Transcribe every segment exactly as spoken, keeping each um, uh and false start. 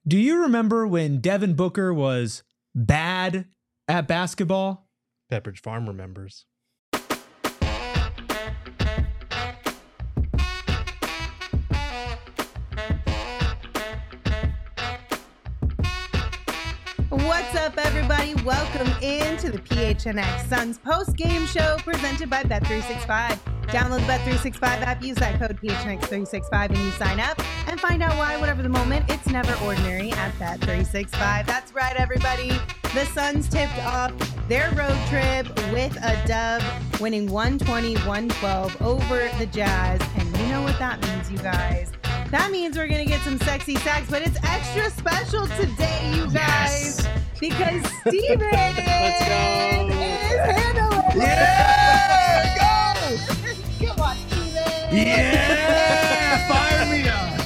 Do you remember when Devin Booker was bad at basketball? Pepperidge Farm remembers. What's up, everybody? Welcome into the P H N X Suns post-game show presented by Bet three sixty-five. Download the Bet three sixty-five app, use that code P H N X three sixty-five, and you sign up and find out why, whatever the moment, it's never ordinary at Bet three sixty-five. That's right, everybody. The Suns tipped off their road trip with a dub, winning one twenty to one twelve over the Jazz. And you know what that means, you guys. That means we're going to get some sexy sacks, but it's extra special today, you guys, yes. because Steven Let's go. is handling it. Yeah! Go! Come on, Steven. Yeah! Fire me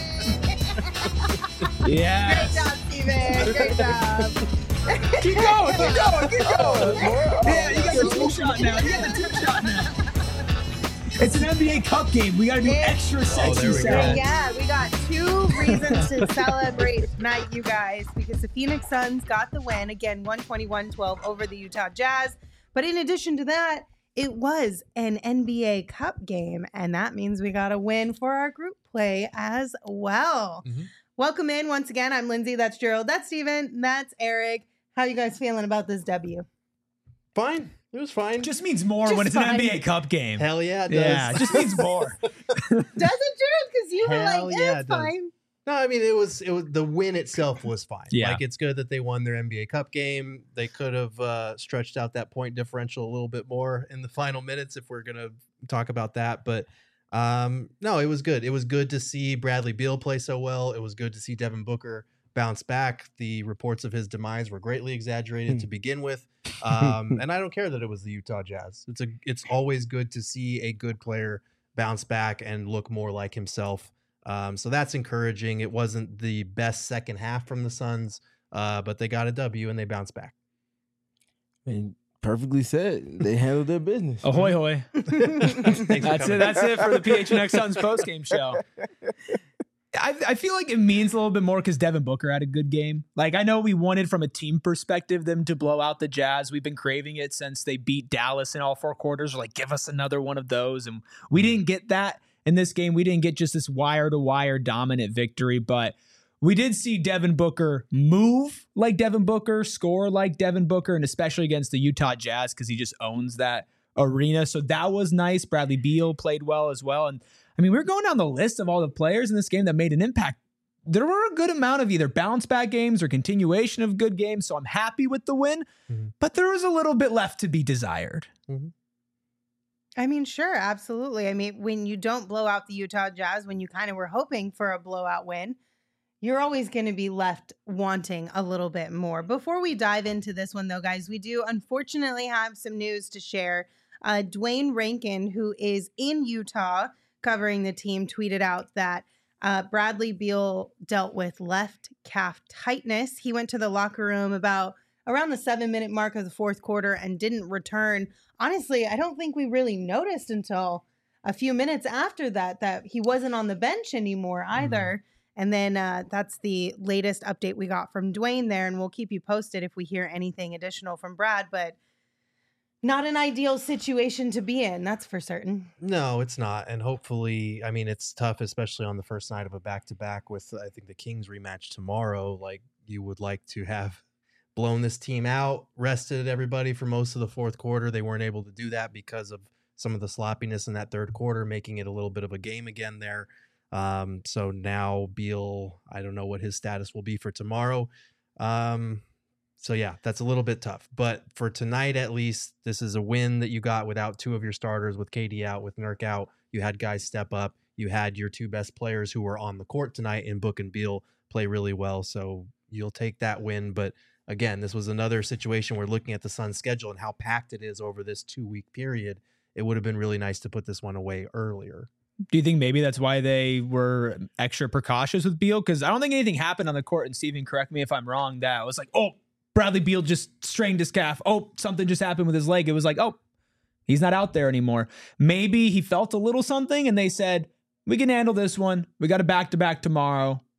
up. Yeah. Great job, Steven. Great job. Keep going, keep going, keep going. Yeah, you got the two shot now. You got the two shot now. It's an N B A Cup game. We got to do extra sexy oh, sound. Yeah, we got two reasons to celebrate tonight, you guys, because the Phoenix Suns got the win. Again, one twenty to one twelve over the Utah Jazz. But in addition to that, it was an N B A Cup game, and that means we got a win for our group play as well. Mm-hmm. Welcome in once again. I'm Lindsay. That's Gerald. That's Steven. That's Eric. How you guys feeling about this W? Fine. It was fine. Just means more Just when it's fine. an N B A Cup game. Hell yeah, it does. Yeah, it just means more. Does it, Gerald? Because you were Hell like, yeah, yeah, it it's does. fine. No, I mean it was it was the win itself was fine. Yeah. Like it's good that they won their N B A Cup game. They could have uh, stretched out that point differential a little bit more in the final minutes if we're gonna talk about that. But um, no, it was good. It was good to see Bradley Beal play so well. It was good to see Devin Booker bounce back. The reports of his demise were greatly exaggerated to begin with. Um, and I don't care that it was the Utah Jazz. It's a it's always good to see a good player bounce back and look more like himself. Um, so that's encouraging. It wasn't the best second half from the Suns, uh, but they got a W and they bounced back. And perfectly said. They handled their business. Ahoy, hoy. That's it. That's it for the P H N X Suns postgame show. I, I feel like it means a little bit more because Devin Booker had a good game. Like, I know we wanted from a team perspective them to blow out the Jazz. We've been craving it since they beat Dallas in all four quarters. We're like, give us another one of those. And we didn't get that in this game. We didn't get just this wire-to-wire dominant victory, but we did see Devin Booker move like Devin Booker, score like Devin Booker, and especially against the Utah Jazz because he just owns that arena. So that was nice. Bradley Beal played well as well. And I mean, we we're going down the list of all the players in this game that made an impact. There were a good amount of either bounce back games or continuation of good games. So I'm happy with the win, mm-hmm. but there was a little bit left to be desired. Mm-hmm. I mean, sure, absolutely. I mean, when you don't blow out the Utah Jazz, when you kind of were hoping for a blowout win, you're always going to be left wanting a little bit more. Before we dive into this one, though, guys, we do unfortunately have some news to share. Uh, Dwayne Rankin, who is in Utah covering the team, tweeted out that uh, Bradley Beal dealt with left calf tightness. He went to the locker room about around the seven minute mark of the fourth quarter and didn't return. Honestly, I don't think we really noticed until a few minutes after that, that he wasn't on the bench anymore either. Mm-hmm. And then uh, that's the latest update we got from Dwayne there. And we'll keep you posted if we hear anything additional from Brad, but not an ideal situation to be in. That's for certain. No, it's not. And hopefully, I mean, it's tough, especially on the first night of a back-to-back with, I think, the Kings rematch tomorrow. Like, you would like to have blown this team out, rested everybody for most of the fourth quarter. They weren't able to do that because of some of the sloppiness in that third quarter, making it a little bit of a game again there. Um, so now Beal, I don't know what his status will be for tomorrow. Um, so yeah, that's a little bit tough, but for tonight, at least this is a win that you got without two of your starters, with K D out, with Nurk out. You had guys step up. You had your two best players who were on the court tonight in Book and Beal play really well. So you'll take that win. But again, this was another situation where looking at the Suns schedule and how packed it is over this two week period, it would have been really nice to put this one away earlier. Do you think maybe that's why they were extra precautious with Beal? Because I don't think anything happened on the court, and Steven, correct me if I'm wrong, that it was like, oh, Bradley Beal just strained his calf. Oh, something just happened with his leg. It was like, oh, he's not out there anymore. Maybe he felt a little something, and they said, we can handle this one. We got a back-to-back tomorrow.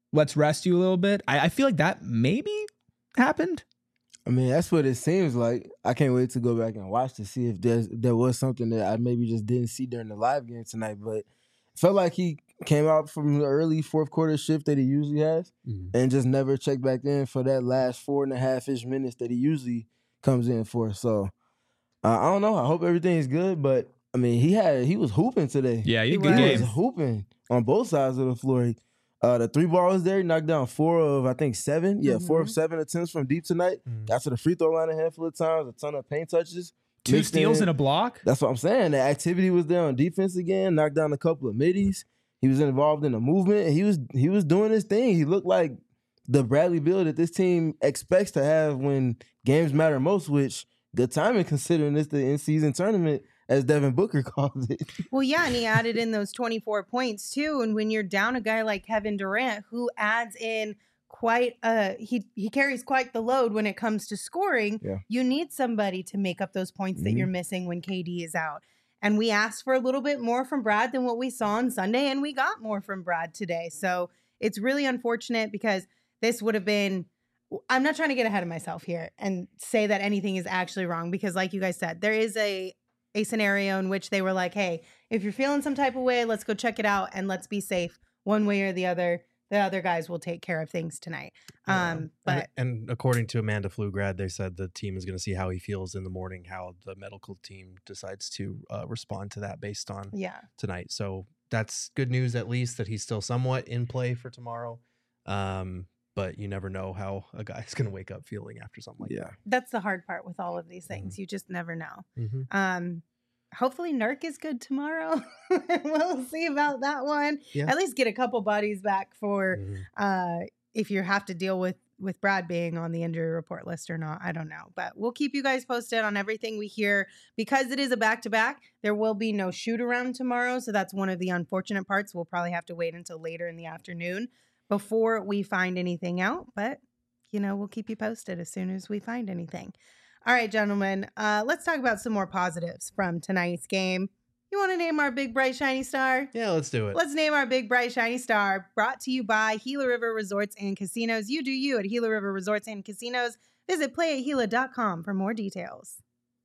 let's rest you a little bit. I, I feel like that maybe happened. I mean, that's what it seems like. I can't wait to go back and watch to see if there's there was something that I maybe just didn't see during the live game tonight. But it felt like he came out from the early fourth quarter shift that he usually has Mhm. and just never checked back in for that last four and a half ish minutes that he usually comes in for. So uh, I don't know. I hope everything's good. But I mean, he had he was hooping today. Yeah, you He had a good was. He game. was hooping on both sides of the floor. Uh, the three ball was there. He knocked down four of, I think, seven. Yeah, four of Mhm. seven attempts from deep tonight. Mhm. Got to the free throw line a handful of times, a ton of paint touches. Two Mixed steals in. and a block. That's what I'm saying. The activity was there on defense again. Knocked down a couple of middies. He was involved in the movement. He was he was doing his thing. He looked like the Bradley Beal that this team expects to have when games matter most, which good timing considering it's the in-season tournament, as Devin Booker calls it. Well, yeah, and he added in those twenty-four points too. And when you're down a guy like Kevin Durant, who adds in quite a he he carries quite the load when it comes to scoring, Yeah. you need somebody to make up those points that Mhm. you're missing when K D is out. And we asked for a little bit more from Brad than what we saw on Sunday, and we got more from Brad today. So it's really unfortunate because this would have been. I'm not trying to get ahead of myself here and say that anything is actually wrong because, like you guys said, there is a a scenario in which they were like, hey, if you're feeling some type of way, let's go check it out and let's be safe one way or the other. The other guys will take care of things tonight. Yeah. Um, but and, and according to Amanda Pflugrad, they said the team is going to see how he feels in the morning, how the medical team decides to uh, respond to that based on yeah, tonight. So that's good news, at least that he's still somewhat in play for tomorrow. Um, but you never know how a guy's going to wake up feeling after something like Yeah. that's the hard part with all of these things. You just never know. that. Mm-hmm. Um, hopefully Nurk is good tomorrow. We'll see about that one. Yeah. At least get a couple buddies back for Mhm. uh, if you have to deal with with Brad being on the injury report list or not. I don't know, but we'll keep you guys posted on everything we hear because it is a back to back. There will be no shoot around tomorrow, so that's one of the unfortunate parts. We'll probably have to wait until later in the afternoon before we find anything out, but you know, we'll keep you posted as soon as we find anything. All right, gentlemen, uh, let's talk about some more positives from tonight's game. You want to name our big, bright, shiny star? Yeah, let's do it. Let's name our big, bright, shiny star. Brought to you by Gila River Resorts and Casinos. You do you at Gila River Resorts and Casinos. Visit play at gila dot com for more details.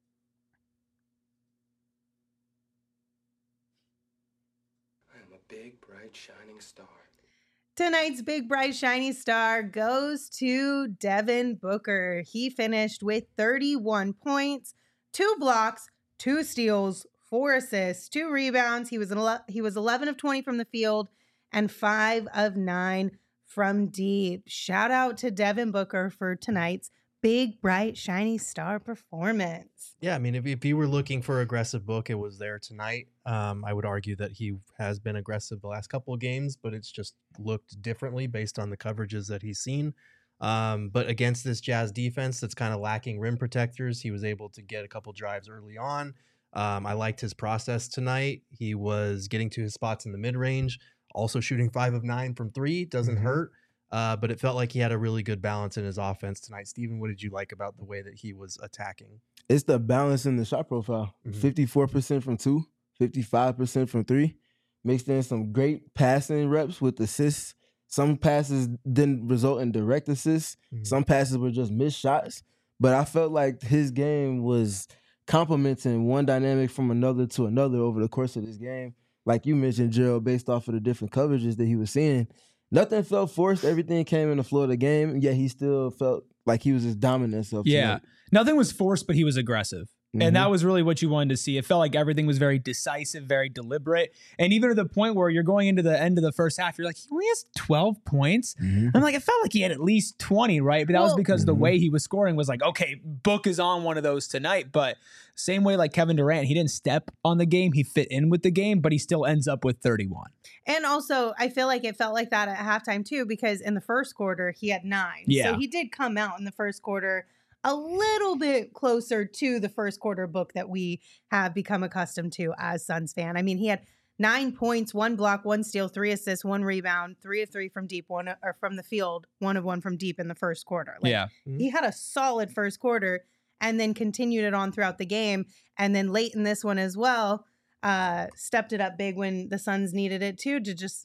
I am a big, bright, shining star. Tonight's big, bright, shiny star goes to Devin Booker. He finished with thirty-one points, two blocks, two steals, four assists, two rebounds. He was an ele- he was eleven of twenty from the field and five of nine from deep. Shout out to Devin Booker for tonight's big, bright, shiny star performance. Yeah, I mean, if, if you were looking for aggressive Book, it was there tonight. Um, I would argue that he has been aggressive the last couple of games, but it's just looked differently based on the coverages that he's seen. Um, but against this Jazz defense that's kind of lacking rim protectors, he was able to get a couple drives early on. Um, I liked his process tonight. He was getting to his spots in the mid-range, also shooting five of nine from three. Doesn't Mhm. hurt. Uh, but it felt like he had a really good balance in his offense tonight. Steven, what did you like about the way that he was attacking? It's the balance in the shot profile. Mhm. fifty-four percent from two, fifty-five percent from three. Mixed in some great passing reps with assists. Some passes didn't result in direct assists. Mhm. Some passes were just missed shots. But I felt like his game was complementing one dynamic from another to another over the course of this game. Like you mentioned, Gerald, based off of the different coverages that he was seeing, nothing felt forced. Everything came in the flow of the game. Yet he still felt like he was his dominant self. Yeah. tonight. Nothing was forced, but he was aggressive. Mhm. And that was really what you wanted to see. It felt like everything was very decisive, very deliberate. And even to the point where you're going into the end of the first half, you're like, he only has twelve points. Mhm. I'm like, it felt like he had at least twenty, right? But that was Well- because the Mhm. way he was scoring was like, okay, Book is on one of those tonight. But same way like Kevin Durant, he didn't step on the game. He fit in with the game, but he still ends up with thirty-one. And also, I feel like it felt like that at halftime too, because in the first quarter, he had nine. Yeah. So he did come out in the first quarter a little bit closer to the first quarter Book that we have become accustomed to as Suns fan. I mean, he had nine points, one block, one steal, three assists, one rebound, three of three from deep, one or from the field, one of one from deep in the first quarter. Like, yeah. he had a solid first quarter and then continued it on throughout the game. And then late in this one as well, uh, stepped it up big when the Suns needed it too, to just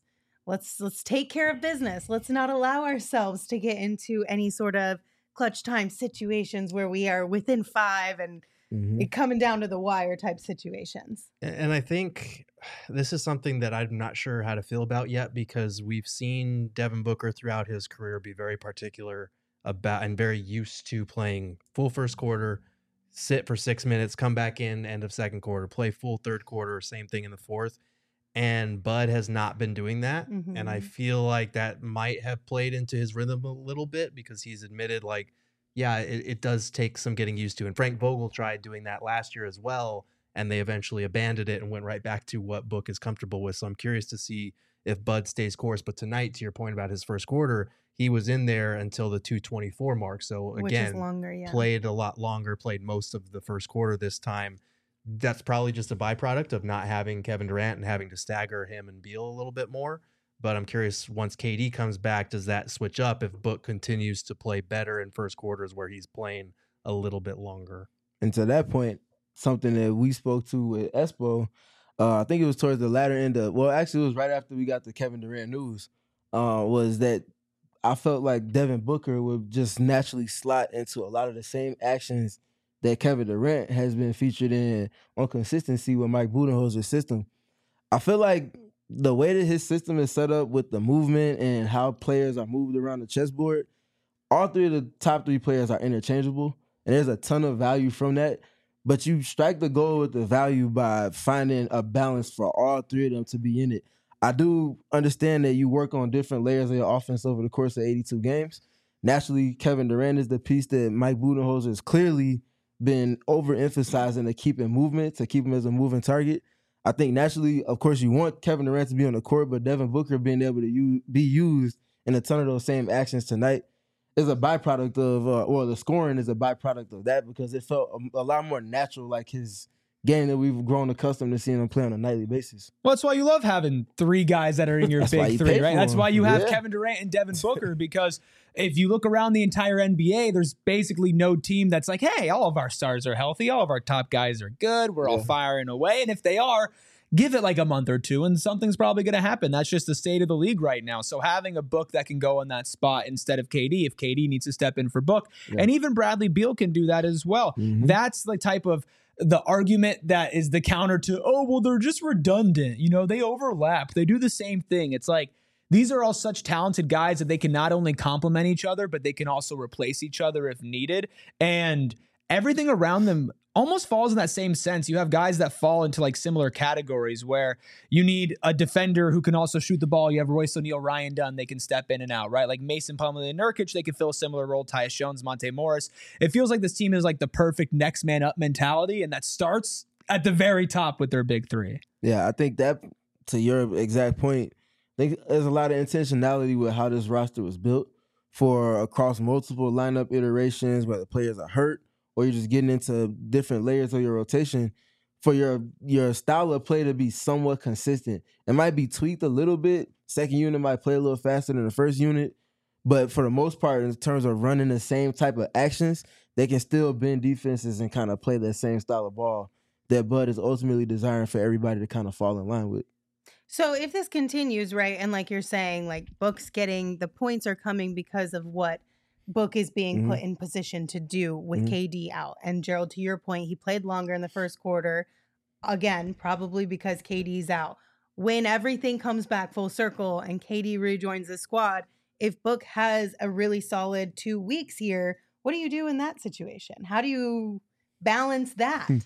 let's let's take care of business. Let's not allow ourselves to get into any sort of clutch time situations where we are within five and Mhm. it coming down to the wire type situations. A- And I think this is something that I'm not sure how to feel about yet, because we've seen Devin Booker throughout his career be very particular about and very used to playing full first quarter, sit for six minutes, come back in end of second quarter, play full third quarter, same thing in the fourth. And Bud has not been doing that. And I Mhm. feel like that might have played into his rhythm a little bit, because he's admitted, like, yeah, it, it does take some getting used to. And Frank Vogel tried doing that last year as well, and they eventually abandoned it and went right back to what Book is comfortable with. So I'm curious to see if Bud stays course. But tonight, to your point about his first quarter, he was in there until the two twenty-four mark. So Which is again, longer, yeah. played a lot longer, played most of the first quarter this time. That's probably just a byproduct of not having Kevin Durant and having to stagger him and Beal a little bit more. But I'm curious, once K D comes back, does that switch up if Book continues to play better in first quarters where he's playing a little bit longer? And to that point, something that we spoke to with Espo, uh, I think it was towards the latter end of, well, actually, it was right after we got the Kevin Durant news, uh, was that I felt like Devin Booker would just naturally slot into a lot of the same actions that Kevin Durant has been featured in on consistency with Mike Budenholzer's system. I feel like the way that his system is set up with the movement and how players are moved around the chessboard, all three of the top three players are interchangeable, and there's a ton of value from that. But you strike the goal with the value by finding a balance for all three of them to be in it. I do understand that you work on different layers of your offense over the course of eighty-two games. Naturally, Kevin Durant is the piece that Mike Budenholzer has clearly been overemphasizing to keep in movement, to keep him as a moving target. I think naturally, of course, you want Kevin Durant to be on the court, but Devin Booker being able to use, be used in a ton of those same actions tonight is a byproduct of, uh, or the scoring is a byproduct of that, because it felt a, a lot more natural, like his game that we've grown accustomed to seeing him play on a nightly basis. Well, that's why you love having three guys that are in your That's why big you three, pay right? for That's them. why you have Yeah. Kevin Durant and Devin Booker, because if you look around the entire N B A, there's basically no team that's like, hey, all of our stars are healthy, all of our top guys are good, we're all Yeah. firing away. And if they are, give it like a month or two and something's probably going to happen. That's just the state of the league right now. So having a Book that can go in that spot instead of K D, if K D needs to step in for Book, Yeah. and even Bradley Beal can do that as well. Mhm. That's the type of the argument that is the counter to, oh, well, they're just redundant. You know, they overlap. They do the same thing. It's like, these are all such talented guys that they can not only complement each other, but they can also replace each other if needed. And everything around them almost falls in that same sense. You have guys that fall into like similar categories where you need a defender who can also shoot the ball. You have Royce O'Neal, Ryan Dunn, they can step in and out, right? Like Mason Plumlee and Nurkic, they can fill a similar role. Tyus Jones, Monte Morris. It feels like this team is like the perfect next man up mentality, and that starts at the very top with their big three. Yeah, I think that, to your exact point, I think there's a lot of intentionality with how this roster was built for across multiple lineup iterations, whether players are hurt or you're just getting into different layers of your rotation, for your your style of play to be somewhat consistent. It might be tweaked a little bit. Second unit might play a little faster than the first unit, but for the most part, in terms of running the same type of actions, they can still bend defenses and kind of play that same style of ball that Bud is ultimately desiring for everybody to kind of fall in line with. So if this continues, right, and like you're saying, like Book's getting, the points are coming because of what Book is being Mhm. put in position to do with Mhm. K D out. And Gerald, to your point, he played longer in the first quarter, again, probably because K D's out. When everything comes back full circle and K D rejoins the squad, if Book has a really solid two weeks here, what do you do in that situation? How do you balance that? Hmm.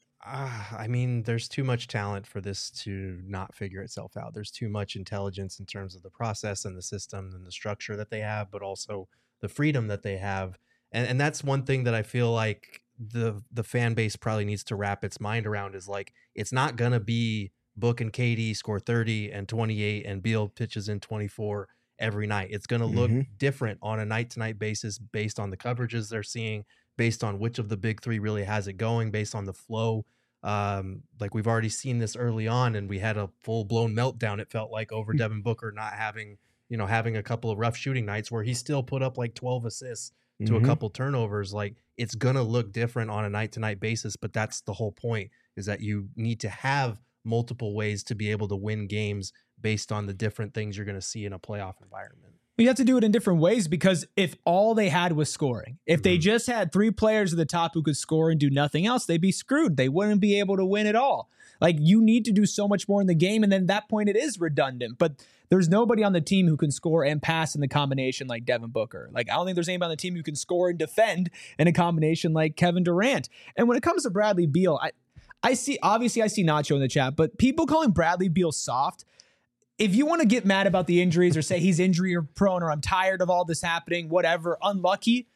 Uh, I mean, there's too much talent for this to not figure itself out. There's too much intelligence in terms of the process and the system and the structure that they have, but also the freedom that they have. And and that's one thing that I feel like the the fan base probably needs to wrap its mind around, is like, it's not going to be Book and K D score thirty and twenty-eight and Beal pitches in twenty-four every night. It's going to look Mhm. different on a night-to-night basis based on the coverages they're seeing, based on which of the big three really has it going, based on the flow. Um, like we've already seen this early on, and we had a full-blown meltdown, it felt like, over Devin Booker not having, you know, having a couple of rough shooting nights where he still put up like twelve assists to Mhm. a couple turnovers. Like, it's gonna look different on a night-to-night basis, but that's the whole point, is that you need to have multiple ways to be able to win games based on the different things you're going to see in a playoff environment. You have to do it in different ways, because if all they had was scoring, if they just had three players at the top who could score and do nothing else, they'd be screwed. They wouldn't be able to win at all. Like, you need to do so much more in the game, and then at that point it is redundant. But there's nobody on the team who can score and pass in the combination like Devin Booker. Like, I don't think there's anybody on the team who can score and defend in a combination like Kevin Durant. And when it comes to Bradley Beal, I, I see, obviously I see Nacho in the chat, but people calling Bradley Beal soft, if you want to get mad about the injuries or say he's injury prone or I'm tired of all this happening, whatever, unlucky,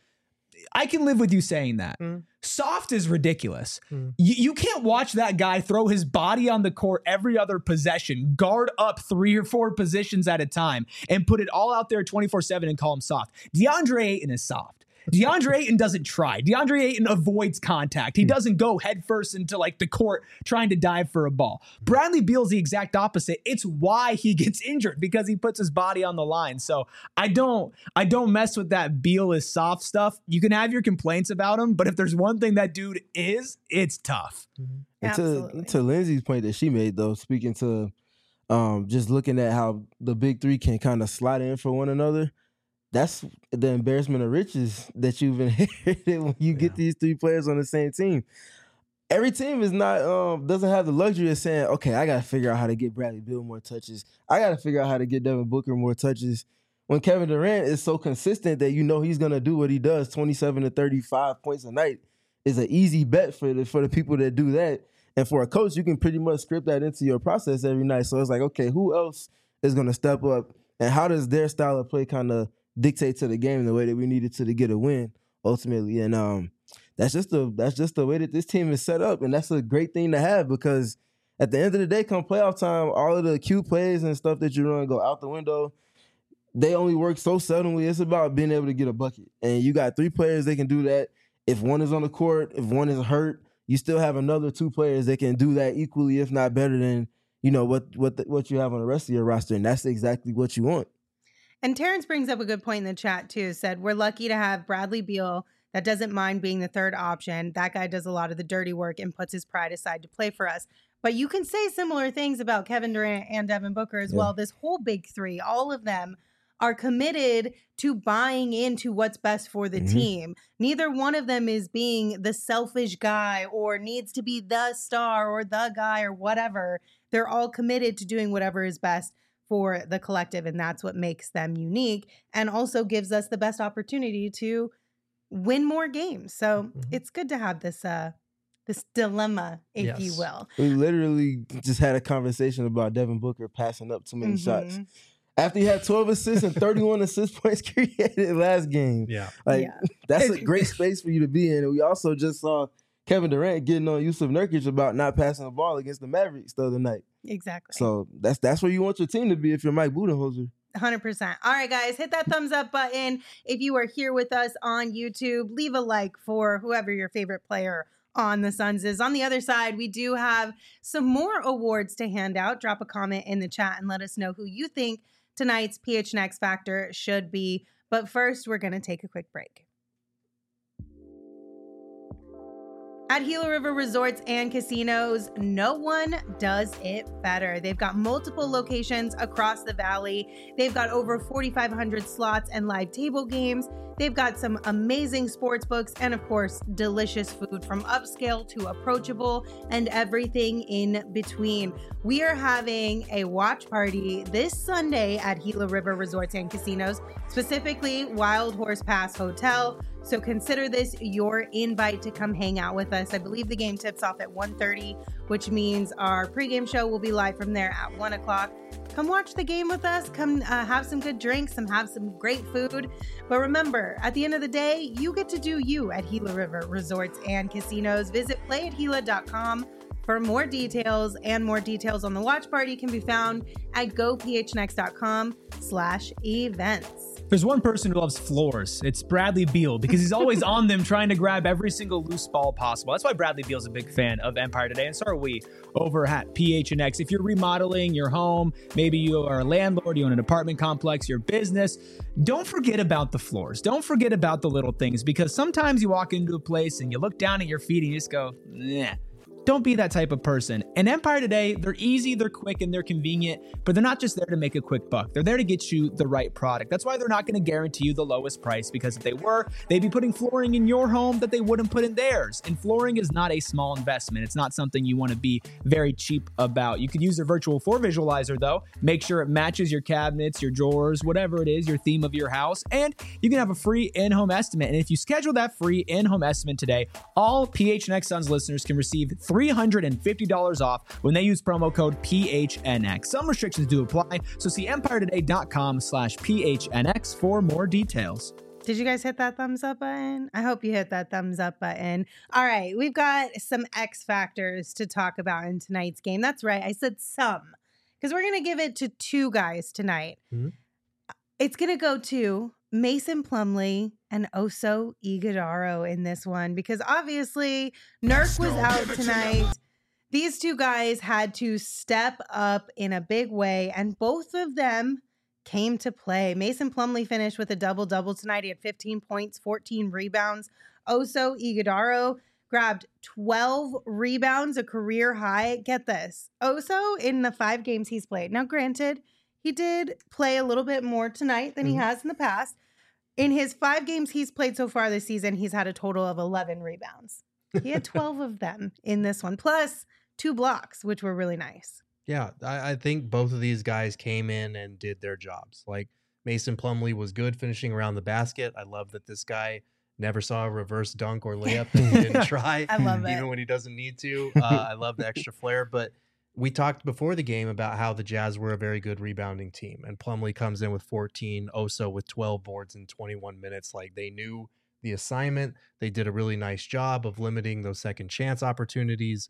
I can live with you saying that. Mm. Soft is ridiculous. Mm. You, you can't watch that guy throw his body on the court every other possession, guard up three or four positions at a time, and put it all out there twenty-four seven and call him soft. DeAndre Ayton is soft. DeAndre Ayton doesn't try. DeAndre Ayton avoids contact. He doesn't go headfirst into like the court trying to dive for a ball. Bradley Beal's the exact opposite. It's why he gets injured, because he puts his body on the line. So I don't, I don't mess with that Beal is soft stuff. You can have your complaints about him, but if there's one thing that dude is, it's tough. Mm-hmm. And to, to Lindsay's point that she made, though, speaking to um, just looking at how the big three can kind of slide in for one another, that's the embarrassment of riches that you've inherited when you yeah. get these three players on the same team. Every team is not um, doesn't have the luxury of saying, okay, I got to figure out how to get Bradley Beal more touches. I got to figure out how to get Devin Booker more touches. When Kevin Durant is so consistent that you know he's going to do what he does, twenty-seven to thirty-five points a night is an easy bet for the, for the people that do that. And for a coach, you can pretty much script that into your process every night. So it's like, okay, who else is going to step up? And how does their style of play kind of dictate to the game the way that we needed to to get a win ultimately? And um, that's just the that's just the way that this team is set up, and that's a great thing to have, because at the end of the day, come playoff time, all of the cute plays and stuff that you run go out the window. They only work so seldomly. It's about being able to get a bucket, and you got three players that can do that. If one is on the court, if one is hurt, you still have another two players that can do that equally, if not better than you know what what the, what you have on the rest of your roster, and that's exactly what you want. And Terrence brings up a good point in the chat, too. Said, we're lucky to have Bradley Beal that doesn't mind being the third option. That guy does a lot of the dirty work and puts his pride aside to play for us. But you can say similar things about Kevin Durant and Devin Booker as yeah. well. This whole big three, all of them are committed to buying into what's best for the mm-hmm. team. Neither one of them is being the selfish guy or needs to be the star or the guy or whatever. They're all committed to doing whatever is best for the collective, and that's what makes them unique and also gives us the best opportunity to win more games. So mm-hmm. it's good to have this uh this dilemma, if yes. you will. We literally just had a conversation about Devin Booker passing up too many mm-hmm. shots. After he had twelve assists and thirty-one assist points created last game. Yeah. Like yeah. that's a great space for you to be in. And we also just saw Kevin Durant getting on Yusuf Nurkic about not passing the ball against the Mavericks the other night. Exactly. So that's that's where you want your team to be if you're Mike Budenholzer. one hundred percent. All right, guys, hit that thumbs up button. If you are here with us on YouTube, leave a like for whoever your favorite player on the Suns is. On the other side, we do have some more awards to hand out. Drop a comment in the chat and let us know who you think tonight's P H N X Factor should be. But first, we're going to take a quick break. At Gila River Resorts and Casinos, no one does it better. They've got multiple locations across the valley. They've got over forty-five hundred slots and live table games. They've got some amazing sports books and, of course, delicious food from upscale to approachable and everything in between. We are having a watch party this Sunday at Gila River Resorts and Casinos, specifically Wild Horse Pass Hotel. So consider this your invite to come hang out with us. I believe the game tips off at one thirty, which means our pregame show will be live from there at one o'clock. Come watch the game with us. Come uh, have some good drinks, some have some great food. But remember, at the end of the day, you get to do you at Gila River Resorts and Casinos. Visit play at gila dot com for more details, and more details on the watch party can be found at go p h n x dot com slash events. There's one person who loves floors. It's Bradley Beal, because he's always on them trying to grab every single loose ball possible. That's why Bradley Beal's a big fan of Empire Today, and so are we over at P H N X. If you're remodeling your home, maybe you are a landlord, you own an apartment complex, your business, don't forget about the floors. Don't forget about the little things, because sometimes you walk into a place and you look down at your feet and you just go, nah. Don't be that type of person. And Empire Today, they're easy, they're quick, and they're convenient, but they're not just there to make a quick buck. They're there to get you the right product. That's why they're not going to guarantee you the lowest price, because if they were, they'd be putting flooring in your home that they wouldn't put in theirs. And flooring is not a small investment. It's not something you want to be very cheap about. You could use their virtual floor visualizer, though. Make sure it matches your cabinets, your drawers, whatever it is, your theme of your house. And you can have a free in-home estimate. And if you schedule that free in-home estimate today, all P H N X Suns listeners can receive three hundred fifty dollars off when they use promo code P H N X. Some restrictions do apply, so see empire today dot com slash P H N X for more details. Did you guys hit that thumbs up button? I hope you hit that thumbs up button. All right, we've got some X factors to talk about in tonight's game. That's right, I said some, because we're going to give it to two guys tonight. Mm-hmm. It's going to go to Mason Plumlee and Oso Ighodaro in this one, because obviously Nurk was out tonight. These two guys had to step up in a big way, and both of them came to play. Mason Plumlee finished with a double-double tonight. He had fifteen points, fourteen rebounds. Oso Ighodaro grabbed twelve rebounds, a career high. Get this. Oso, in the five games he's played. Now, granted, he did play a little bit more tonight than mm-hmm. he has in the past. In his five games he's played so far this season, he's had a total of eleven rebounds. He had twelve of them in this one, plus two blocks, which were really nice. Yeah, I, I think both of these guys came in and did their jobs. Like, Mason Plumlee was good finishing around the basket. I love that this guy never saw a reverse dunk or layup that he didn't try. I love it. Even when he doesn't need to. Uh, I love the extra flair. But we talked before the game about how the Jazz were a very good rebounding team. And Plumlee comes in with fourteen, Oso with twelve boards in twenty-one minutes. Like, they knew the assignment. They did a really nice job of limiting those second chance opportunities.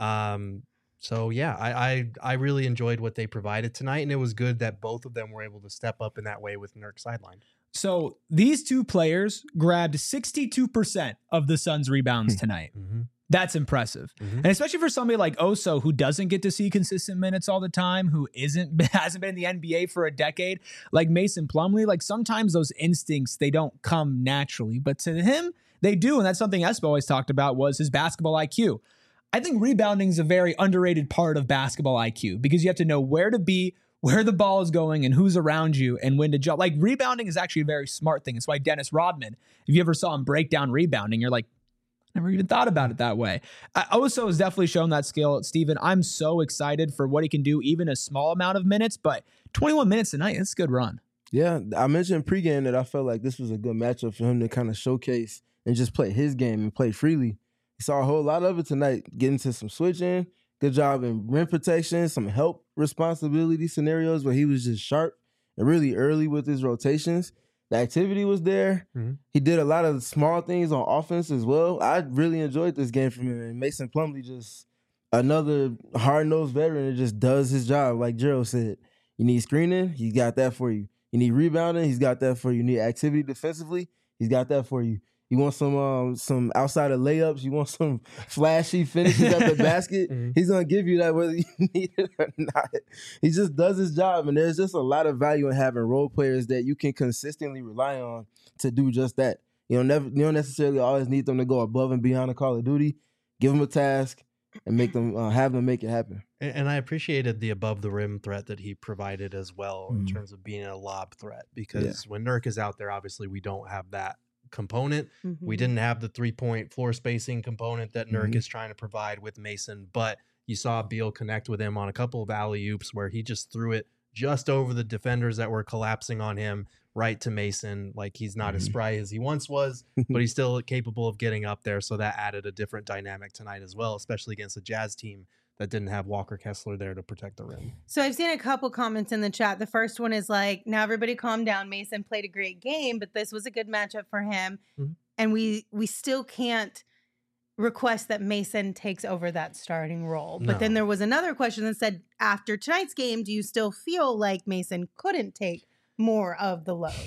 Um, so yeah, I, I, I really enjoyed what they provided tonight, and it was good that both of them were able to step up in that way with Nurk sidelined. So these two players grabbed sixty-two percent of the Suns' rebounds tonight. Mm-hmm. That's impressive. Mm-hmm. And especially for somebody like Oso, who doesn't get to see consistent minutes all the time, who isn't hasn't been in the N B A for a decade, like Mason Plumlee, like sometimes those instincts, they don't come naturally, but to him, they do. And that's something Espo always talked about, was his basketball I Q. I think rebounding is a very underrated part of basketball I Q, because you have to know where to be, where the ball is going, and who's around you, and when to jump. Like, rebounding is actually a very smart thing. It's why Dennis Rodman, if you ever saw him break down rebounding, you're like, never even thought about it that way. Uh, Oso has definitely shown that skill. Steven, I'm so excited for what he can do, even a small amount of minutes, but twenty-one minutes tonight, it's a good run. Yeah, I mentioned pregame that I felt like this was a good matchup for him to kind of showcase and just play his game and play freely. He saw a whole lot of it tonight, getting to some switching, good job in rim protection, some help responsibility scenarios where he was just sharp and really early with his rotations. The activity was there. Mm-hmm. He did a lot of small things on offense as well. I really enjoyed this game from him. And Mason Plumlee, just another hard-nosed veteran that just does his job. Like Gerald said, you need screening, he's got that for you. You need rebounding, he's got that for you. You need activity defensively, he's got that for you. You want some um, some outside of layups, you want some flashy finishes at the basket, mm-hmm. he's going to give you that whether you need it or not. He just does his job, and there's just a lot of value in having role players that you can consistently rely on to do just that. You don't, never, you don't necessarily always need them to go above and beyond a Call of Duty. Give them a task and make them uh, have them make it happen. And, and I appreciated the above the rim threat that he provided as well, mm-hmm. in terms of being a lob threat, because yeah. when Nurk is out there, obviously we don't have that component. Mm-hmm. We didn't have the three-point floor spacing component that Nurk mm-hmm. is trying to provide with Mason, but you saw Beal connect with him on a couple of alley-oops where he just threw it just over the defenders that were collapsing on him, right to Mason. Like, he's not mm-hmm. as spry as he once was, but he's still capable of getting up there, so that added a different dynamic tonight as well, especially against a Jazz team that didn't have Walker Kessler there to protect the rim. So I've seen a couple comments in the chat. The first one is like, now everybody calm down. Mason played a great game, but this was a good matchup for him. Mm-hmm. And we we still can't request that Mason takes over that starting role. No. But then there was another question that said, after tonight's game, do you still feel like Mason couldn't take more of the load?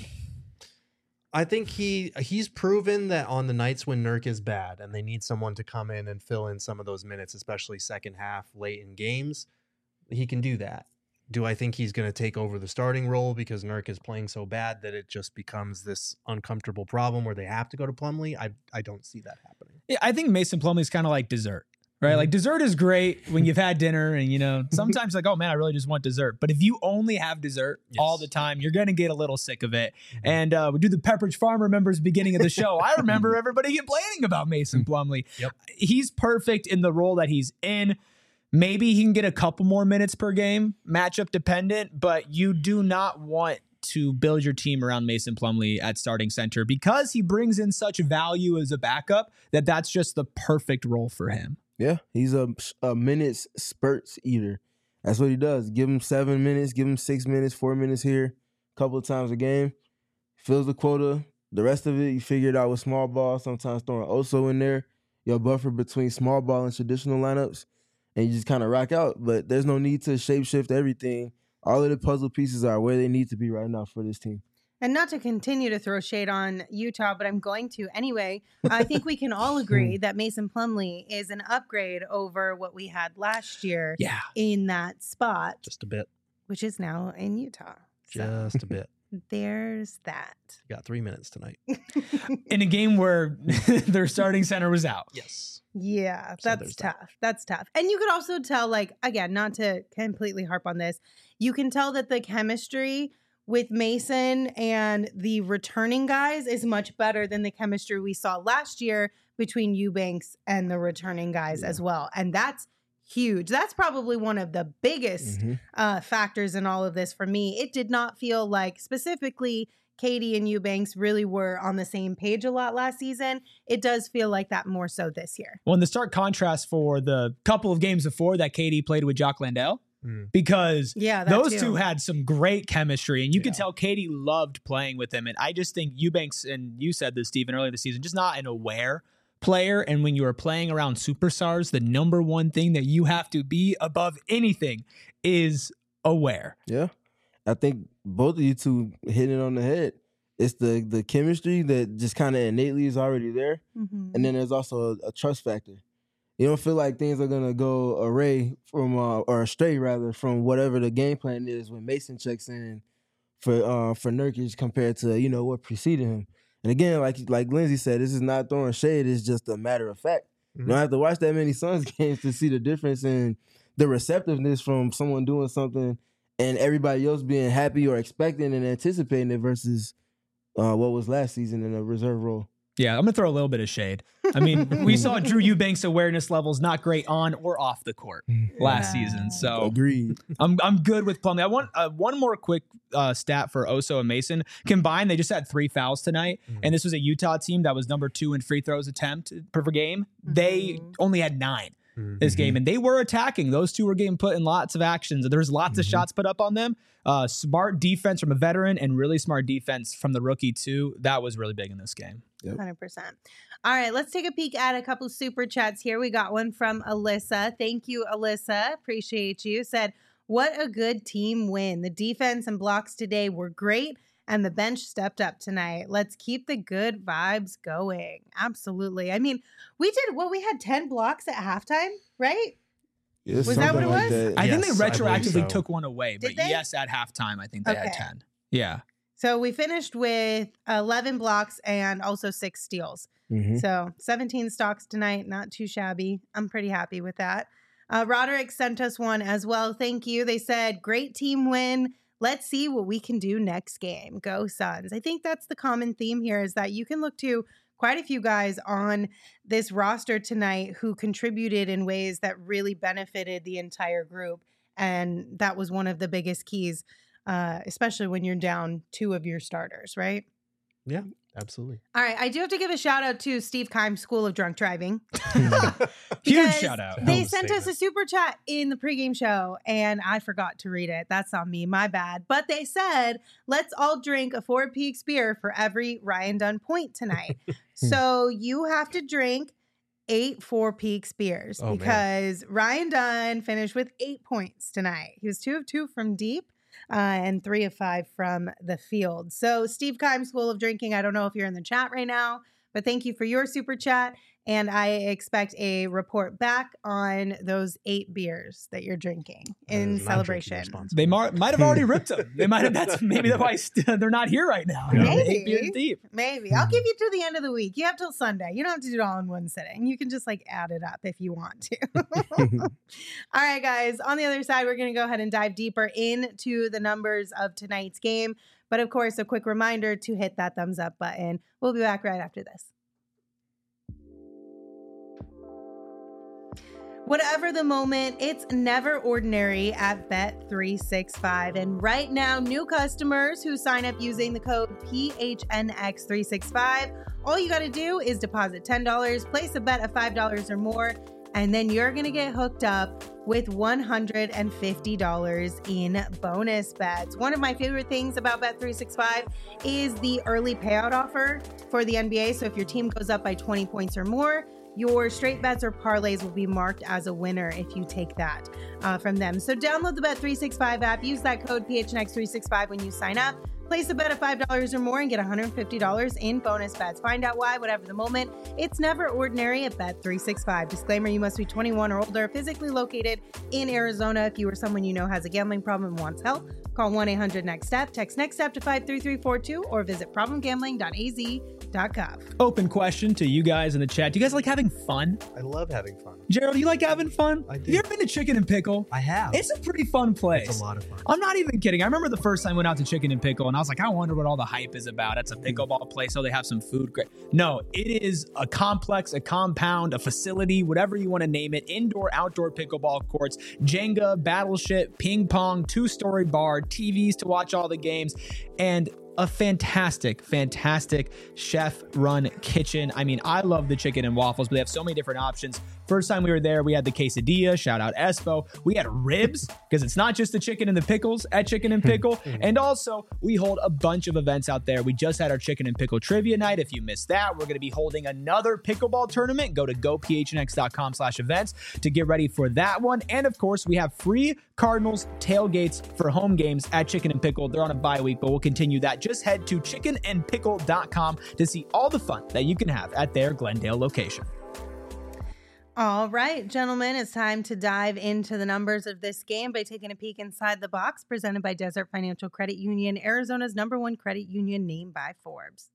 I think he he's proven that on the nights when Nurk is bad and they need someone to come in and fill in some of those minutes, especially second half, late in games, he can do that. Do I think he's going to take over the starting role because Nurk is playing so bad that it just becomes this uncomfortable problem where they have to go to Plumlee? I I don't see that happening. Yeah, I think Mason Plumlee's kind of like dessert. right? Mhm. Like dessert is great when you've had dinner and, you know, sometimes like, oh man, I really just want dessert. But if you only have dessert all Yes. the time, you're going to get a little sick of it. Mhm. And uh, we do the Pepperidge Farm remembers beginning of the show. I remember everybody complaining about Mason Plumlee. Yep. He's perfect in the role that he's in. Maybe he can get a couple more minutes per game, matchup dependent, but you do not want to build your team around Mason Plumlee at starting center because he brings in such value as a backup that that's just the perfect role for him. Yeah, he's a, a minutes spurts eater. That's what he does. Give him seven minutes, give him six minutes, four minutes here, a couple of times a game. Fills the quota. The rest of it, you figure it out with small ball, sometimes throwing Oso in there, your buffer between small ball and traditional lineups, and you just kind of rock out. But there's no need to shapeshift everything. All of the puzzle pieces are where they need to be right now for this team. And not to continue to throw shade on Utah, but I'm going to anyway. I think we can all agree that Mason Plumlee is an upgrade over what we had last year Yeah. in that spot, Just a bit. which is now in Utah. So Just a bit. there's that. You got three minutes tonight. In a game where their starting center was out. Yes. Yeah, So that's there's that. tough. That's tough. And you could also tell, like, again, not to completely harp on this, you can tell that the chemistry with Mason and the returning guys is much better than the chemistry we saw last year between Eubanks and the returning guys Yeah. as well. And that's huge. That's probably one of the biggest Mhm. uh, factors in all of this for me. It did not feel like specifically Katie and Eubanks really were on the same page a lot last season. It does feel like that more so this year. Well, in the stark contrast for the couple of games before that K D played with Jock Landale, Mm. because Yeah, that those too. two had some great chemistry, and you could Yeah. tell Katie loved playing with him. And I just think Eubanks, and you said this, Stephen, earlier this season, just not an aware player. And when you are playing around superstars, the number one thing that you have to be above anything is aware. Yeah. I think both of you two hit it on the head. It's the the chemistry that just kind of innately is already there. Mhm. And then there's also a, a trust factor. You don't feel like things are gonna go array from uh, or astray rather from whatever the game plan is when Mason checks in for uh, for Nurkic compared to you know what preceded him. And again, like like Lindsay said, this is not throwing shade. It's just a matter of fact. You don't have to watch that many Suns games to see the difference in the receptiveness from someone doing something and everybody else being happy or expecting and anticipating it versus uh, what was last season in a reserve role. Yeah, I'm going to throw a little bit of shade. I mean, we saw Drew Eubanks' awareness levels not great on or off the court last Yeah. season. So Agreed. I'm I'm good with Plumlee. I want uh, one more quick uh, stat for Oso and Mason. Combined, they just had three fouls tonight, Mhm. and this was a Utah team that was number two in free throws attempt per game. They Mhm. only had nine Mhm. this game, and they were attacking. Those two were getting put in lots of actions. There was lots of Mhm. shots put up on them. Uh, smart defense from a veteran and really smart defense from the rookie too. That was really big in this game. one hundred percent. All right, let's take a peek at a couple super chats here. We got one from Alyssa. Thank you, Alyssa. Appreciate you. Said, what a good team win. The defense and blocks today were great, and the bench stepped up tonight. Let's keep the good vibes going. Absolutely. I mean, we did, well, we had ten blocks at halftime, right? Yeah, Was that what something it like was? that. I think they Yes, I believe retroactively so. took one away, but Did they? yes, at halftime, I think they had Okay. ten. Yeah. So we finished with eleven blocks and also six steals. Mhm. So seventeen stocks tonight, not too shabby. I'm pretty happy with that. Uh, Roderick sent us one as well. Thank you. They said, great team win. Let's see what we can do next game. Go Suns. I think that's the common theme here is that you can look to quite a few guys on this roster tonight who contributed in ways that really benefited the entire group. And that was one of the biggest keys, uh, especially when you're down two of your starters, right? Yeah, absolutely. All right, I do have to give a shout out to Steve Kimes' School of Drunk Driving. Huge Because shout out. Hell They of a sent us a statement. super chat in the pregame show, and I forgot to read it. That's on me, my bad. But they said, let's all drink a Four Peaks beer for every Ryan Dunn point tonight. So you have to drink eight Four Peaks beers Oh, man. because Ryan Dunn finished with eight points tonight. He was two of two from deep. Uh, and three of five from the field. So, Steve Kimes, School of Drinking, I don't know if you're in the chat right now, But thank you for your super chat. And I expect a report back on those eight beers that you're drinking in celebration. They mar- might have already ripped them. They might have. That's maybe why st- they're not here right now. Maybe. Eight beers deep. Maybe. I'll give you to the end of the week. You have till Sunday. You don't have to do it all in one sitting. You can just like add it up if you want to. All right, guys. On the other side, we're going to go ahead and dive deeper into the numbers of tonight's game. But of course, a quick reminder to hit that thumbs up button. We'll be back right after this. Whatever the moment, it's never ordinary at Bet three sixty-five. And right now, new customers who sign up using the code P H N X three sixty-five, all you got to do is deposit ten dollars, place a bet of five dollars or more, and then you're going to get hooked up with one hundred fifty dollars in bonus bets. One of my favorite things about Bet three sixty-five is the early payout offer for the N B A. So if your team goes up by twenty points or more, your straight bets or parlays will be marked as a winner if you take that uh, from them. So download the Bet three sixty-five app. Use that code P H N X three sixty-five when you sign up. Place a bet of five dollars or more and get one hundred fifty dollars in bonus bets. Find out why, whatever the moment. It's never ordinary at Bet three sixty-five. Disclaimer, you must be twenty-one or older, physically located in Arizona. If you or someone you know has a gambling problem and wants help, call one eight hundred next step. Text NEXTSTEP to five three three four two or visit problem gambling dot a z dot gov. Open question to you guys in the chat. Do you guys like having fun? I love having fun. Gerald, do you like having fun? I do. Have you ever been to Chicken and Pickle? I have. It's a pretty fun place. It's a lot of fun. I'm not even kidding. I remember the first time I went out to Chicken and Pickle and I was like, I wonder what all the hype is about. It's a pickleball place, so they have some food. Great. No, it is a complex, a compound, a facility, whatever you want to name it. Indoor, outdoor pickleball courts, Jenga, battleship, ping pong, two-story bar, T Vs to watch all the games, and a fantastic, fantastic chef-run kitchen. I mean, I love the chicken and waffles, but they have so many different options. First time we were there, we had the quesadilla. Shout out Espo. We had ribs, because it's not just the chicken and the pickles at Chicken and Pickle. And also, we hold a bunch of events out there. We just had our Chicken and Pickle Trivia Night. If you missed that, we're going to be holding another pickleball tournament. Go to go p h n x dot com slash events to get ready for that one. And of course, we have free Cardinals tailgates for home games at Chicken and Pickle. They're on a bye week, but we'll continue that. Just head to chicken and pickle dot com to see all the fun that you can have at their Glendale location. All right, gentlemen, it's time to dive into the numbers of this game by taking a peek inside the box presented by Desert Financial Credit Union, Arizona's number one credit union named by Forbes.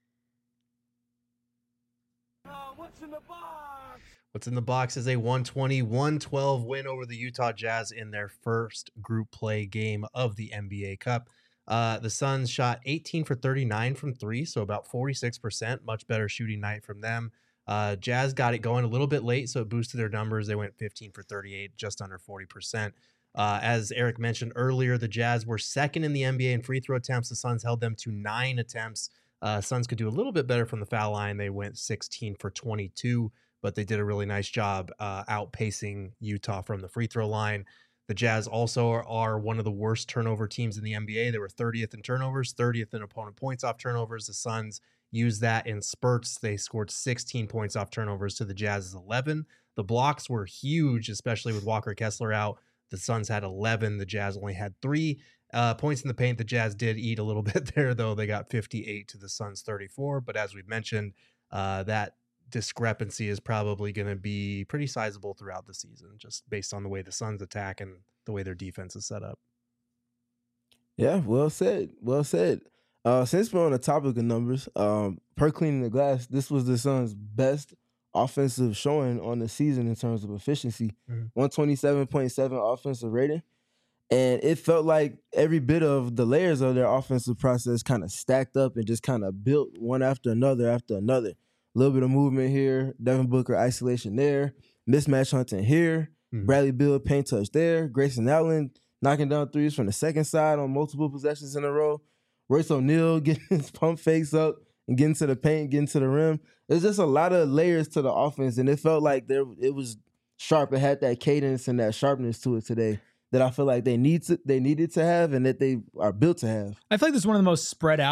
Uh, what's in the box? What's in the box is a one twenty to one twelve win over the Utah Jazz in their first group play game of the N B A Cup. Uh, the Suns shot eighteen for thirty-nine from three, so about forty-six percent, much better shooting night from them. Uh, Jazz got it going a little bit late, so it boosted their numbers. They went fifteen for thirty-eight, just under forty percent. Uh, as Eric mentioned earlier, the Jazz were second in the N B A in free throw attempts. The Suns held them to nine attempts. Uh, Suns could do a little bit better from the foul line. They went sixteen for twenty-two, but they did a really nice job uh, outpacing Utah from the free throw line. The Jazz also are, are one of the worst turnover teams in the N B A. They were thirtieth in turnovers, thirtieth in opponent points off turnovers. The Suns used that in spurts. They scored sixteen points off turnovers to the Jazz's eleven. The blocks were huge, especially with Walker Kessler out. The Suns had eleven. The Jazz only had three. Uh, points in the paint, the Jazz did eat a little bit there, though. They got fifty-eight to the Suns' thirty-four. But as we've mentioned, uh, that discrepancy is probably going to be pretty sizable throughout the season, just based on the way the Suns attack and the way their defense is set up. Yeah, well said. Well said. Uh, since we're on the topic of numbers, um, per cleaning the glass, this was the Suns' best offensive showing on the season in terms of efficiency. Mm-hmm. one twenty-seven point seven offensive rating. And it felt like every bit of the layers of their offensive process kind of stacked up and just kind of built one after another after another. A little bit of movement here, Devin Booker isolation there, mismatch hunting here, mm-hmm. Bradley Beal paint touch there, Grayson Allen knocking down threes from the second side on multiple possessions in a row, Royce O'Neal getting his pump fakes up and getting to the paint, getting to the rim. There's just a lot of layers to the offense, and it felt like there it was sharp. It had that cadence and that sharpness to it today that I feel like they need to they needed to have and that they are built to have. I feel like this is one of the most spread out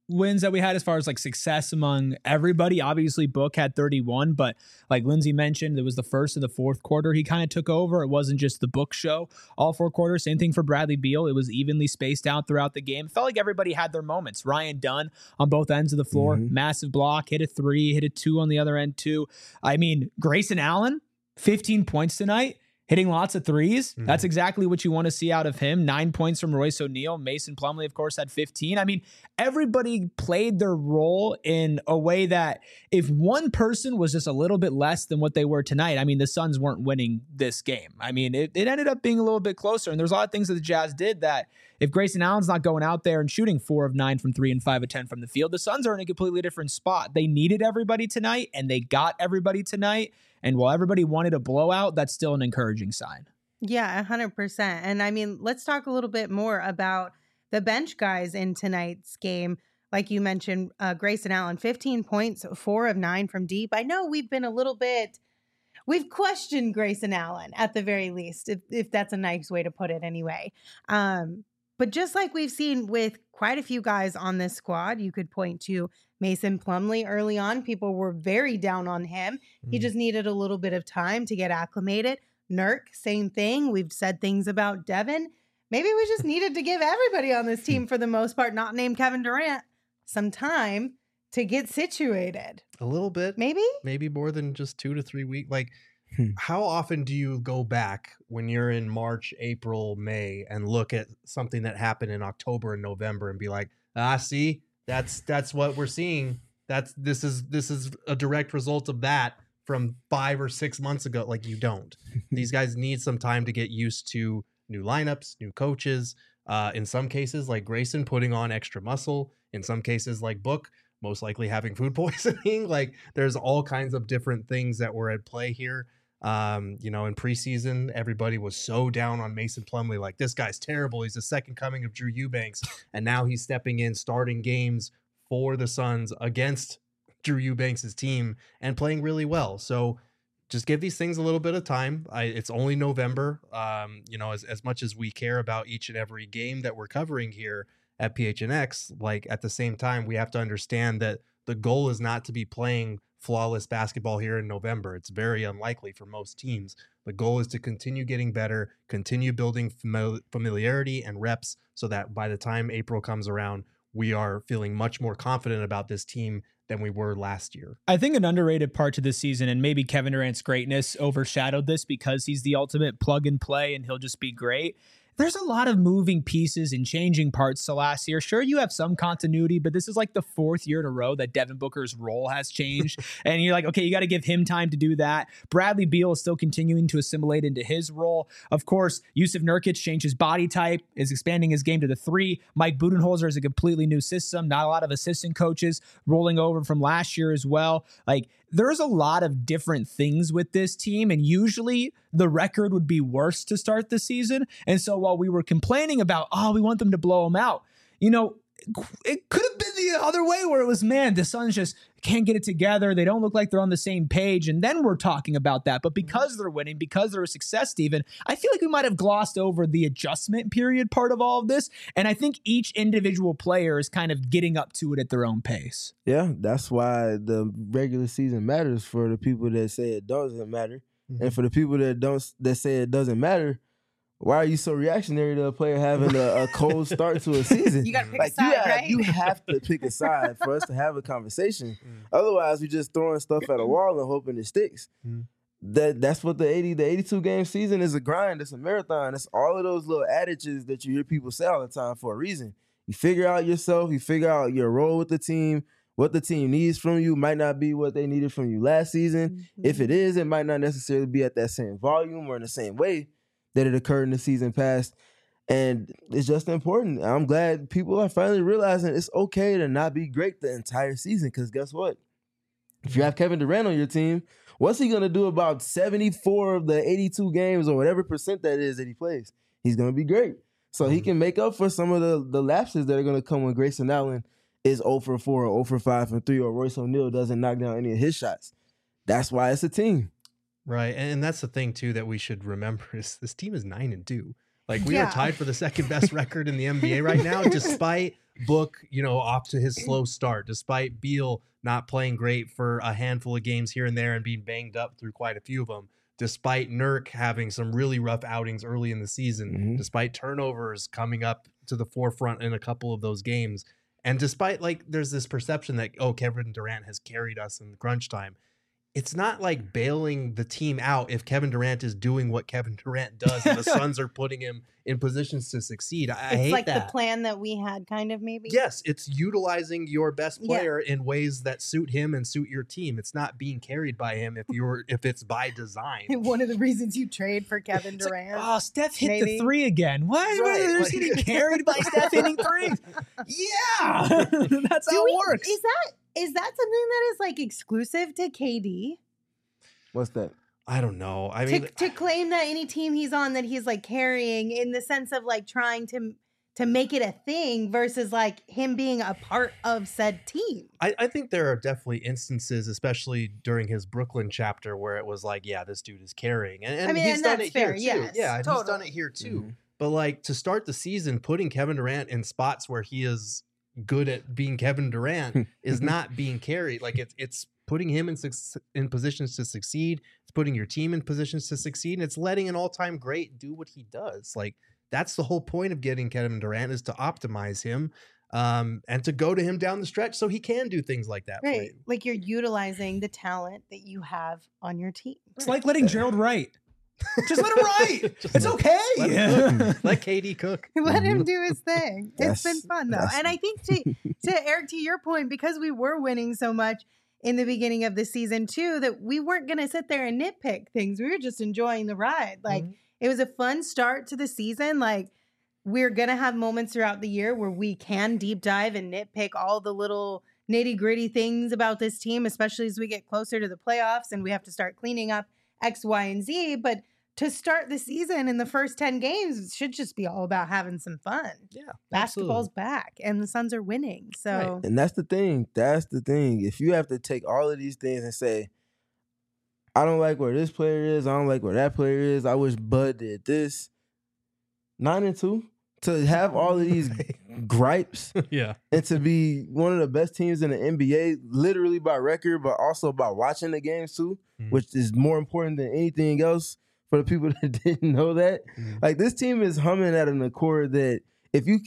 wins that we had as far as like success among everybody. Obviously, Book had thirty-one, but like Lindsay mentioned, it was the first and the fourth quarter he kind of took over. It wasn't just the Book show all four quarters. Same thing for Bradley Beal. It was evenly spaced out throughout the game. It felt like everybody had their moments. Ryan Dunn on both ends of the floor, Mm-hmm. massive block, hit a three, hit a two on the other end too. I mean, Grayson Allen, fifteen points tonight. Hitting lots of threes. Mhm. That's exactly what you want to see out of him. Nine points from Royce O'Neal. Mason Plumlee, of course, had fifteen. I mean, everybody played their role in a way that if one person was just a little bit less than what they were tonight, I mean, the Suns weren't winning this game. I mean, it, it ended up being a little bit closer. And there's a lot of things that the Jazz did that if Grayson Allen's not going out there and shooting four of nine from three and five of ten from the field, the Suns are in a completely different spot. They needed everybody tonight, and they got everybody tonight. And while everybody wanted a blowout, that's still an encouraging sign. Yeah, one hundred percent. And I mean, let's talk a little bit more about the bench guys in tonight's game. Like you mentioned, uh, Grayson Allen, fifteen points, four of nine from deep. I know we've been a little bit, we've questioned Grayson Allen at the very least, if, if that's a nice way to put it anyway. Um, but just like we've seen with quite a few guys on this squad, you could point to Mason Plumlee early on. People were very down on him. He Mm. just needed a little bit of time to get acclimated. Nurk, same thing. We've said things about Devin. Maybe we just needed to give everybody on this team, for the most part, not named Kevin Durant, some time to get situated. A little bit. Maybe? Maybe more than just two to three weeks. Like, Hmm. how often do you go back when you're in March, April, May and look at something that happened in October and November and be like, ah, see, that's that's what we're seeing. That's this is this is a direct result of that from five or six months ago. Like, you don't. These guys need some time to get used to new lineups, new coaches. Uh, in some cases, like Grayson, putting on extra muscle. In some cases, like Book, most likely having food poisoning. Like, there's all kinds of different things that were at play here. Um, you know, in preseason, everybody was so down on Mason Plumlee, like, this guy's terrible. He's the second coming of Drew Eubanks. And now he's stepping in, starting games for the Suns against Drew Eubanks' team and playing really well. So just give these things a little bit of time. I, it's only November. Um, you know, as, as much as we care about each and every game that we're covering here at P H N X, like, at the same time, we have to understand that the goal is not to be playing flawless basketball here in November. It's very unlikely for most teams. The goal is to continue getting better, continue building famili- familiarity and reps so that by the time April comes around, we are feeling much more confident about this team than we were last year. I think an underrated part to this season, and maybe Kevin Durant's greatness overshadowed this because he's the ultimate plug and play and he'll just be great. There's a lot of moving pieces and changing parts to last year. Sure, you have some continuity, but this is like the fourth year in a row that Devin Booker's role has changed. And you're like, okay, you got to give him time to do that. Bradley Beal is still continuing to assimilate into his role. Of course, Yusuf Nurkic changed his body type, is expanding his game to the three. Mike Budenholzer is a completely new system. Not a lot of assistant coaches rolling over from last year as well. Like, there's a lot of different things with this team, and usually the record would be worse to start the season. And so while we were complaining about, oh, we want them to blow them out, you know, it could have been the other way where it was, man, the Suns just can't get it together. They don't look like they're on the same page. And then we're talking about that. But because they're winning, because they're a success, Steven, I feel like we might have glossed over the adjustment period part of all of this. And I think each individual player is kind of getting up to it at their own pace. Yeah, that's why the regular season matters for the people that say it doesn't matter. Mm-hmm. And for the people that don't that say it doesn't matter, why are you so reactionary to a player having a, a cold start to a season? You got to pick Like, a side, you, have, right? you have to pick a side for us to have a conversation. Mm. Otherwise, we're just throwing stuff at a wall and hoping it sticks. Mm. That that's what the eighty, the eighty-two game season is. A grind. It's a marathon. It's all of those little adages that you hear people say all the time for a reason. You figure out yourself. You figure out your role with the team. What the team needs from you might not be what they needed from you last season. Mm-hmm. If it is, it might not necessarily be at that same volume or in the same way that it occurred in the season past. And it's just important. I'm glad people are finally realizing it's okay to not be great the entire season, because guess what? If you have Kevin Durant on your team, what's he going to do about seventy-four of the eighty-two games or whatever percent that is that he plays? He's going to be great. So he can make up for some of the, the lapses that are going to come when Grayson Allen is zero for four or zero for five from three, or Royce O'Neal doesn't knock down any of his shots. That's why it's a team. Right. And that's the thing, too, that we should remember is this team is nine and two. Like, we Yeah. are tied for the second best record in the N B A right now, despite Book, you know, off to his slow start, despite Beal not playing great for a handful of games here and there and being banged up through quite a few of them, despite Nurk having some really rough outings early in the season, Mhm. despite turnovers coming up to the forefront in a couple of those games. And despite like there's this perception that, oh, Kevin Durant has carried us in the crunch time. It's not like bailing the team out if Kevin Durant is doing what Kevin Durant does and the Suns are putting him in positions to succeed. I, I It's hate like that. the plan that we had, kind of, maybe. Yes, it's utilizing your best Yeah. player in ways that suit him and suit your team. It's not being carried by him if you're if it's by design. One of the reasons you trade for Kevin It's like, Durant. oh, Steph hit maybe. the three again. What? Right, They're like- getting carried by Steph hitting threes. Yeah, that's Do how we- it works. Is that is that something that is like exclusive to K D? What's that? I don't know. I mean, to, to claim that any team he's on that he's like carrying in the sense of like trying to to make it a thing versus like him being a part of said team. I, I think there are definitely instances, especially during his Brooklyn chapter, where it was like, yeah, this dude is carrying. And, and I mean, he's and done that's it here fair, too. yes, yeah, and he's done totally. it here too. Mhm. But like to start the season, putting Kevin Durant in spots where he is good at being Kevin Durant is not being carried. Like it's it's putting him in suc- in positions to succeed. It's putting your team in positions to succeed, and it's letting an all-time great do what he does. Like that's the whole point of getting Kevin Durant is to optimize him um, and to go to him down the stretch so he can do things like that for Right. you. Like you're utilizing the talent that you have on your team. It's like letting Gerald write. Just let him write. Just It's let- okay. Let, him cook. Let K D cook. Let him Mhm. do his thing. It's been That's- fun though. that's- And I think to to Eric, to your point, because we were winning so much in the beginning of the season too, that we weren't gonna sit there and nitpick things. We were just enjoying the ride. Like Mhm. it was a fun start to the season. Like we're gonna have moments throughout the year where we can deep dive and nitpick all the little nitty gritty things about this team, especially as we get closer to the playoffs and we have to start cleaning up X, Y, and Z. But to start the season in the first ten games, it should just be all about having some fun. Yeah, Basketball's back and the Suns are winning. So And that's the thing. That's the thing. If you have to take all of these things and say, I don't like where this player is, I don't like where that player is, I wish Bud did this. Nine and two. To have all of these gripes yeah. and to be one of the best teams in the N B A, literally by record, but also by watching the games too, Mhm. which is more important than anything else for the people that didn't know that. Mhm. Like this team is humming at an accord that if you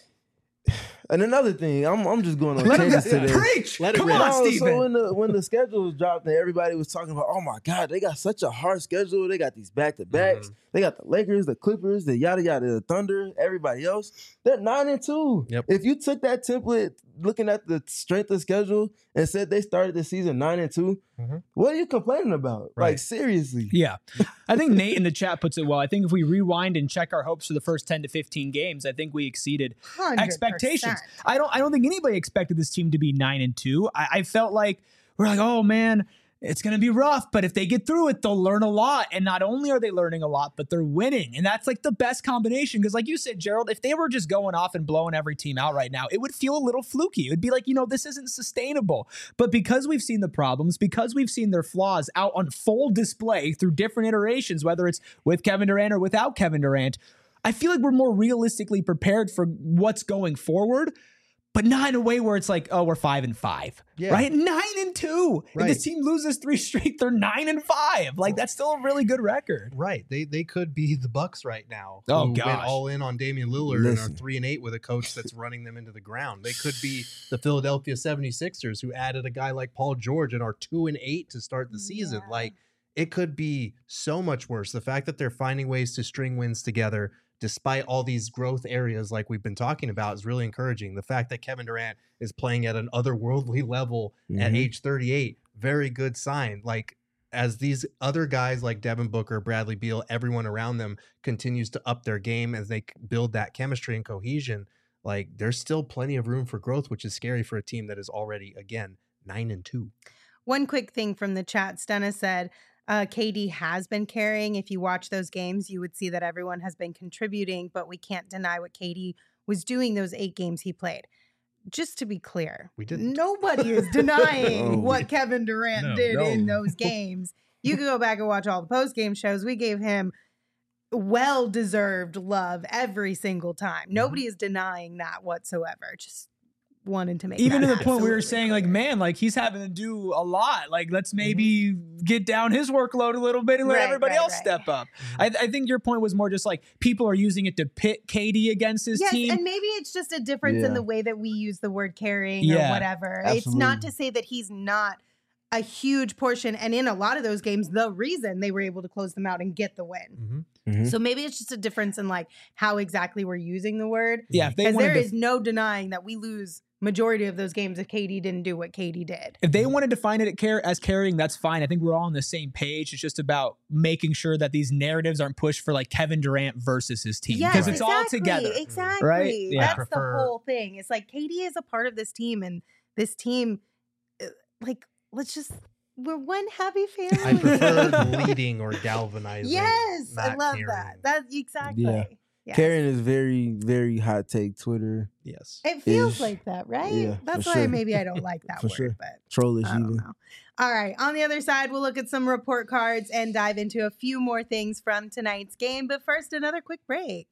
and another thing, I'm I'm just going on Let him tangents today. preach. Let it Come rip. on, No, Steven. so when the when the schedules dropped and everybody was talking about, oh my God, they got such a hard schedule. They got these back to backs. Mhm. They got the Lakers, the Clippers, the yada yada, the Thunder, everybody else. They're nine and two. Yep. If you took that template, looking at the strength of schedule, and said they started the season nine and two, Mhm. what are you complaining about? Right. Like seriously. Yeah. I think Nate in the chat puts it well. I think if we rewind and check our hopes for the first ten to fifteen games, I think we exceeded one hundred percent. expectations. I don't I don't think anybody expected this team to be nine and two. I, I felt like we're like, oh man, it's gonna be rough, but if they get through it, they'll learn a lot. And not only are they learning a lot, but they're winning. And that's like the best combination. Because like you said, Gerald, if they were just going off and blowing every team out right now, it would feel a little fluky. It would be like, you know, this isn't sustainable. But because we've seen the problems, because we've seen their flaws out on full display through different iterations, whether it's with Kevin Durant or without Kevin Durant, I feel like we're more realistically prepared for what's going forward, but not in a way where it's like, oh, we're five and five, Yeah. right? Nine and two. If Right. this team loses three straight, they're nine and five. Like that's still a really good record. Right. They they could be the Bucks right now. Oh, who gosh. went all in on Damian Lillard and Listen. are three and eight with a coach that's running them into the ground. They could be the Philadelphia seventy-sixers who added a guy like Paul George and are two and eight to start the season. Yeah. Like it could be so much worse. The fact that they're finding ways to string wins together despite all these growth areas like we've been talking about is really encouraging. The fact that Kevin Durant is playing at an otherworldly level at Mhm. age thirty-eight, very good sign. Like as these other guys like Devin Booker, Bradley Beal, everyone around them continues to up their game as they build that chemistry and cohesion, like there's still plenty of room for growth, which is scary for a team that is already, again, nine and two. One quick thing from the chat, Stenna said, uh, K D has been carrying. If you watch those games, you would see that everyone has been contributing, but we can't deny what K D was doing those eight games he played. Just to be clear, We didn't. nobody is denying No. what Kevin Durant No, did no. in those games. You can go back and watch all the post-game shows. We gave him well-deserved love every single time. Nobody is denying that whatsoever. Just wanted to make even that to the point we were absolutely saying like, clear. man, like he's having to do a lot. Like, let's maybe get down his workload a little bit and let Right, everybody right, else right. step up. I, I think your point was more just like people are using it to pit K D against his Yes, team. and maybe it's just a difference Yeah. in the way that we use the word carrying Yeah, or whatever. It's not absolutely. to say that he's not a huge portion, and in a lot of those games, the reason they were able to close them out and get the win. Mhm. Mhm. So maybe it's just a difference in like how exactly we're using the word. Yeah, if they Because wanted there to is no denying that we lose majority of those games if K D didn't do what K D did. If they want to define it at car- as carrying, that's fine. I think we're all on the same page. It's just about making sure that these narratives aren't pushed for like Kevin Durant versus his team because Yes, it's exactly, all together. Exactly. Right? Yeah. That's Prefer- the whole thing. It's like K D is a part of this team, and this team, uh, like, let's just, we're one happy family. I prefer leading or galvanizing. Yes, I not love carrying. that. That's exactly. Yeah. Yes. Carrying is very, very hot take Twitter. Yes. It feels is- like that, right? yeah, That's for why sure. maybe I don't like that For word, sure. but Trollish I don't even. know. All right. On the other side, we'll look at some report cards and dive into a few more things from tonight's game. But first, another quick break.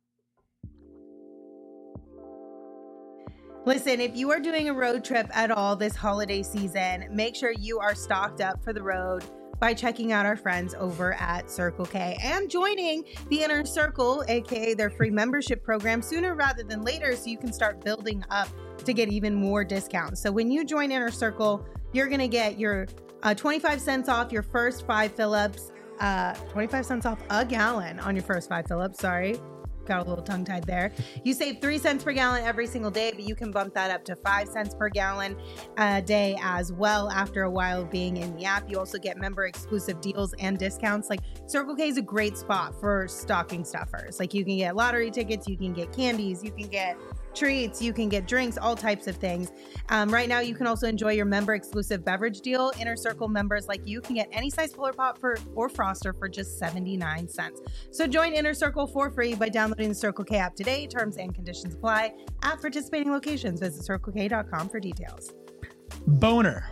Listen, if you are doing a road trip at all this holiday season, make sure you are stocked up for the road by checking out our friends over at Circle K and joining the Inner Circle, aka their free membership program, sooner rather than later so you can start building up to get even more discounts. So when you join Inner Circle, you're going to get your uh, twenty-five cents off your first five fill-ups, uh, twenty-five cents off a gallon on your first five fill-ups, sorry. Got a little tongue-tied there. You save three cents per gallon every single day, but you can bump that up to five cents per gallon a day as well after a while of being in the app. You also get member-exclusive deals and discounts. Like, Circle K is a great spot for stocking stuffers. Like, you can get lottery tickets, you can get candies, you can get treats, you can get drinks, all types of things. Um, right now, you can also enjoy your member-exclusive beverage deal. Inner Circle members like you can get any size Polar Pop for or Froster for just seventy-nine cents. So join Inner Circle for free by downloading the Circle K app today. Terms and conditions apply at participating locations. Visit circle k dot com for details. Boner.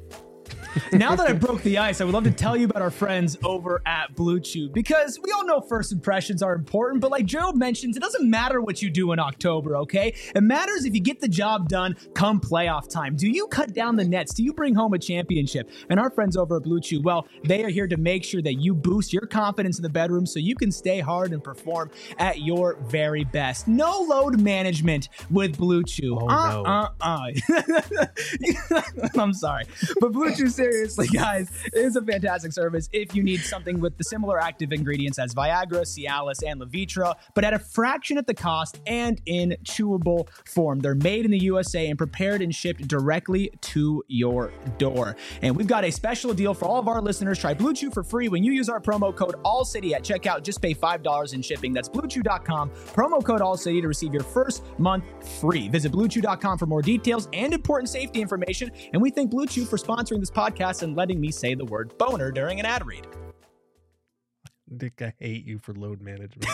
Now that I broke the ice, I would love to tell you about our friends over at Blue Chew because we all know first impressions are important, but like Gerald mentions, it doesn't matter what you do in October, okay? It matters if you get the job done come playoff time. Do you cut down the nets? Do you bring home a championship? And our friends over at Blue Chew, well, they are here to make sure that you boost your confidence in the bedroom so you can stay hard and perform at your very best. No load management with Blue Chew. Oh, uh, no. uh, uh. I'm sorry. But Blue Chew, seriously, guys, is a fantastic service if you need something with the similar active ingredients as Viagra, Cialis, and Levitra, but at a fraction of the cost and in chewable form. They're made in the U S A and prepared and shipped directly to your door. And we've got a special deal for all of our listeners. Try Blue Chew for free when you use our promo code ALLCITY at checkout. Just pay five dollars in shipping. That's blue chew dot com, promo code ALLCITY to receive your first month free. Visit blue chew dot com for more details and important safety information. And we thank Blue Chew for sponsoring this podcast and letting me say the word boner during an ad read. Dick, I hate you for load management.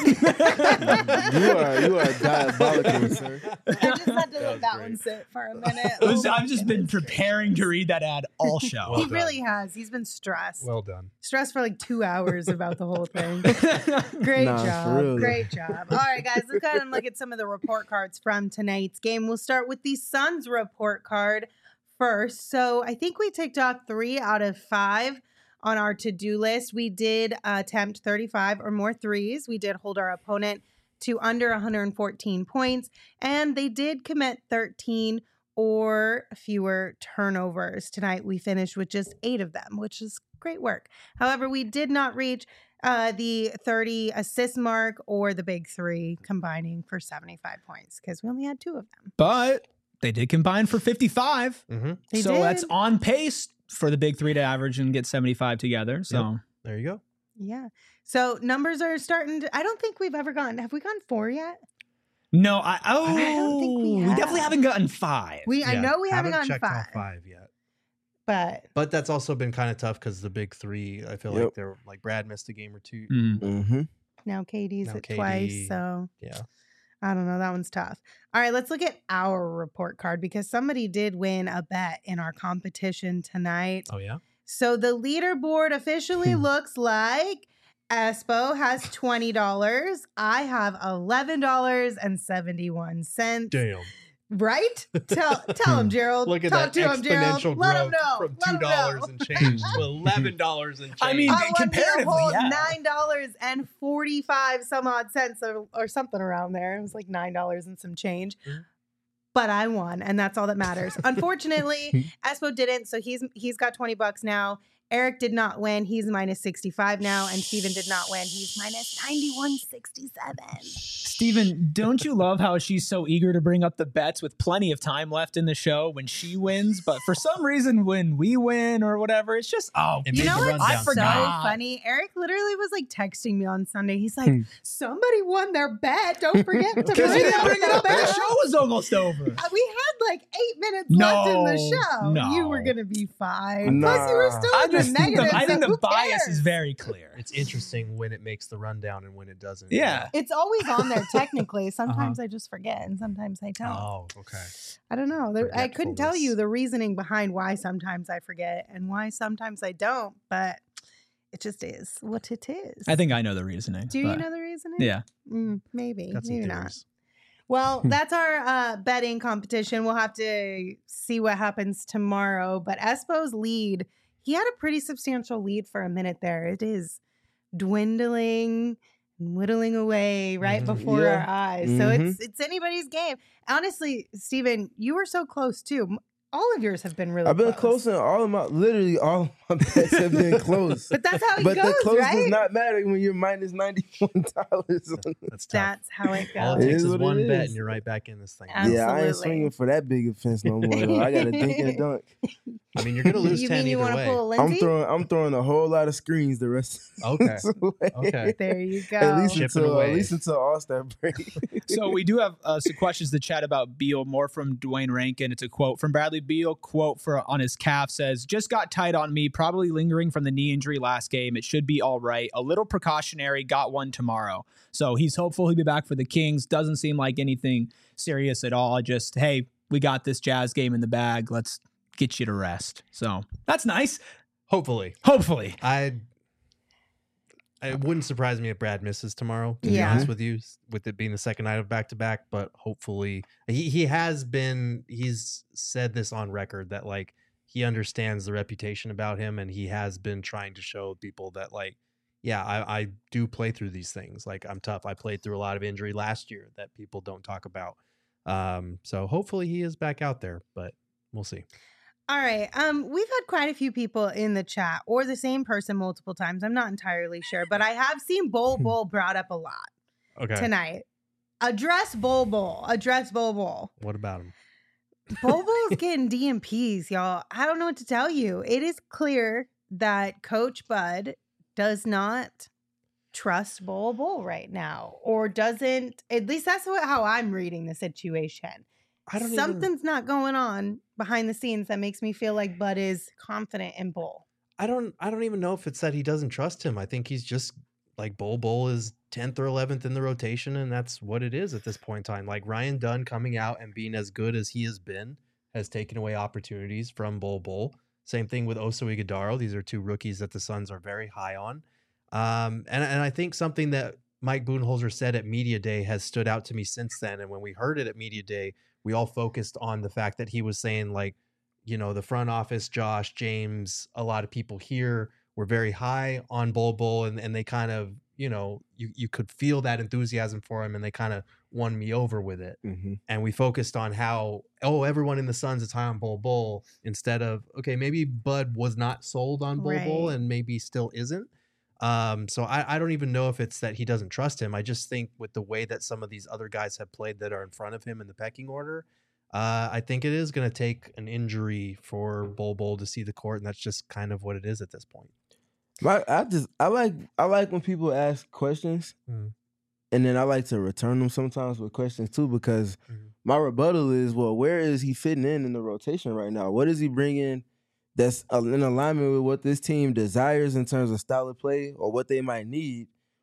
you are you are diabolical, sir. I just had to That let was that great. one sit for a minute. It was- Oh, I've just been goodness preparing to read that ad all show. Well He done. really has. He's been stressed. Well done. stressed for like two hours about the whole thing. Great Nah, for job. real, though. Great job. All right, guys, let's go ahead and look at some of the report cards from tonight's game. We'll start with the Suns report card first. So I think we ticked off three out of five on our to-do list. We did attempt thirty-five or more threes. We did hold our opponent to under one hundred fourteen points, and they did commit thirteen or fewer turnovers. Tonight, we finished with just eight of them, which is great work. However, we did not reach uh, the thirty assist mark or the big three combining for seventy-five points because we only had two of them. But they did combine for fifty-five. Mm-hmm. They so did. that's on pace for the big three to average and get seventy-five together. So There you go. Yeah. So numbers are starting to, I don't think we've ever gone, have we gone four yet? no, I oh I don't think we we have. definitely haven't gotten five. We, I Yeah, know we haven't, checked gotten five, off five yet. but But that's also been kind of tough because the big three, I feel Yep. like they're like Brad missed a game or two. Mm. Mm-hmm. now Katie's Now at Katie- twice. So Yeah. I don't know. That one's tough. All right, let's look at our report card because somebody did win a bet in our competition tonight. Oh, yeah. So the leaderboard officially Hmm. looks like Espo has twenty dollars. I have eleven dollars and seventy-one cents. Damn. Right? Tell tell him, Gerald. Look at Talk that to him, Gerald. exponential Let him growth know. from Let two him dollars know. and change to eleven dollars and change. I mean, I won comparatively, the whole yeah. nine dollars and forty-five some odd cents or, or something around there. It was like nine dollars and some change. Mhm. But I won, and that's all that matters. Unfortunately, Espo didn't, so he's he's got twenty bucks now. Eric did not win. He's minus sixty-five now, and Steven did not win. He's minus ninety-one sixty-seven. Steven, don't you love how she's so eager to bring up the bets with plenty of time left in the show when she wins? But for some reason, when we win or whatever, it's just, oh, It You made know the what's rundown so forgot. funny? Eric literally was like texting me on Sunday. He's like, Hmm. somebody won their bet. Don't forget to because bring you didn't up bring it the up and the bet. show was almost over. Uh, We had like eight minutes left in the No, show. no. You were gonna be fine. Plus, you were Nah. still I in the just think negative. the, I think so the who bias cares? is very clear. It's interesting when it makes the rundown and when it doesn't. Yeah. It's always on there technically. Sometimes I just forget, and sometimes I don't. Oh, okay. I don't know. There, I couldn't tell you Forgetfulness. the reasoning behind why sometimes I forget and why sometimes I don't, but it just is what it is. I think I know the reasoning. Do you but- know the reasoning? Yeah. Mm, maybe. Got some Maybe not. theories. Well, that's our uh, betting competition. We'll have to see what happens tomorrow. But Espo's lead, he had a pretty substantial lead for a minute there. It is dwindling, whittling away right Mhm. before Yeah. our eyes. So Mhm. it's it's anybody's game. Honestly, Steven, you were so close too. M- All of yours have been really I've been close. close in all of my, literally all of my bets have been close. But that's how it But goes, the close right? does not matter when you're minus ninety-one dollars. That's tough. That's how it All goes. it It takes is is what it one bet is. and you're right back in this thing. Absolutely. Yeah, I ain't swinging for that big offense no more. Though. I got to dink and dunk. I mean, you're gonna lose You ten mean you either want to way. pull a I'm Lindsay? throwing. I'm throwing a whole lot of screens the rest. Of Okay. the way. Okay. There you go. At least Chipping until away. at least until All Star break. So we do have uh, some questions to chat about Beal, more from Dwayne Rankin. It's a quote from Bradley Beal. Quote for on his calf says, "Just got tight on me, probably lingering from the knee injury last game. It should be all right. A little precautionary. Got one tomorrow." So he's hopeful he'll be back for the Kings. Doesn't seem like anything serious at all. Just, hey, we got this Jazz game in the bag. Let's get you to rest. So that's nice. Hopefully, Hopefully. I. It wouldn't surprise me if Brad misses tomorrow. To be Yeah. honest with you, s- with it being the second night of back to back, but hopefully he he has been. He's said this on record that like he understands the reputation about him, and he has been trying to show people that like, yeah, I, I do play through these things. Like I'm tough. I played through a lot of injury last year that people don't talk about. Um, so hopefully he is back out there, but we'll see. All right. Um, we've had quite a few people in the chat, or the same person multiple times. I'm not entirely sure, but I have seen Bol Bol brought up a lot Okay. tonight. Address Bol Bol. Address Bol Bol. What about him? Bol Bol's getting D M Ps, y'all. I don't know what to tell you. It is clear that Coach Bud does not trust Bol Bol right now, or doesn't. At least that's what, how I'm reading the situation. I don't even- Something's not going on behind the scenes that makes me feel like Bud is confident in Bol. I don't I don't even know if it's that he doesn't trust him. I think he's just like Bol Bol is tenth or eleventh in the rotation, and that's what it is at this point in time. Like Ryan Dunn coming out and being as good as he has been has taken away opportunities from Bol Bol. Same thing with Oso Ighodaro. These are two rookies that the Suns are very high on. Um, and, and I think something that Mike Budenholzer said at Media Day has stood out to me since then. And when we heard it at Media Day, we all focused on the fact that he was saying like, you know, the front office, Josh, James, a lot of people here were very high on Bol Bol, and, and they kind of, you know, you, you could feel that enthusiasm for him, and they kind of won me over with it. Mm-hmm. And we focused on how, oh, everyone in the Suns is high on Bol Bol, instead of, okay, maybe Bud was not sold on Bol Bol Right. and maybe still isn't. Um, so I, I don't even know if it's that he doesn't trust him. I just think with the way that some of these other guys have played that are in front of him in the pecking order, uh, I think it is going to take an injury for Bol Bol to see the court, and that's just kind of what it is at this point. My, I just I like I like when people ask questions, Mm. and then I like to return them sometimes with questions too, because Mhm. my rebuttal is, well, where is he fitting in in the rotation right now? What is he bringing that's uh, in alignment with what this team desires in terms of style of play or what they might need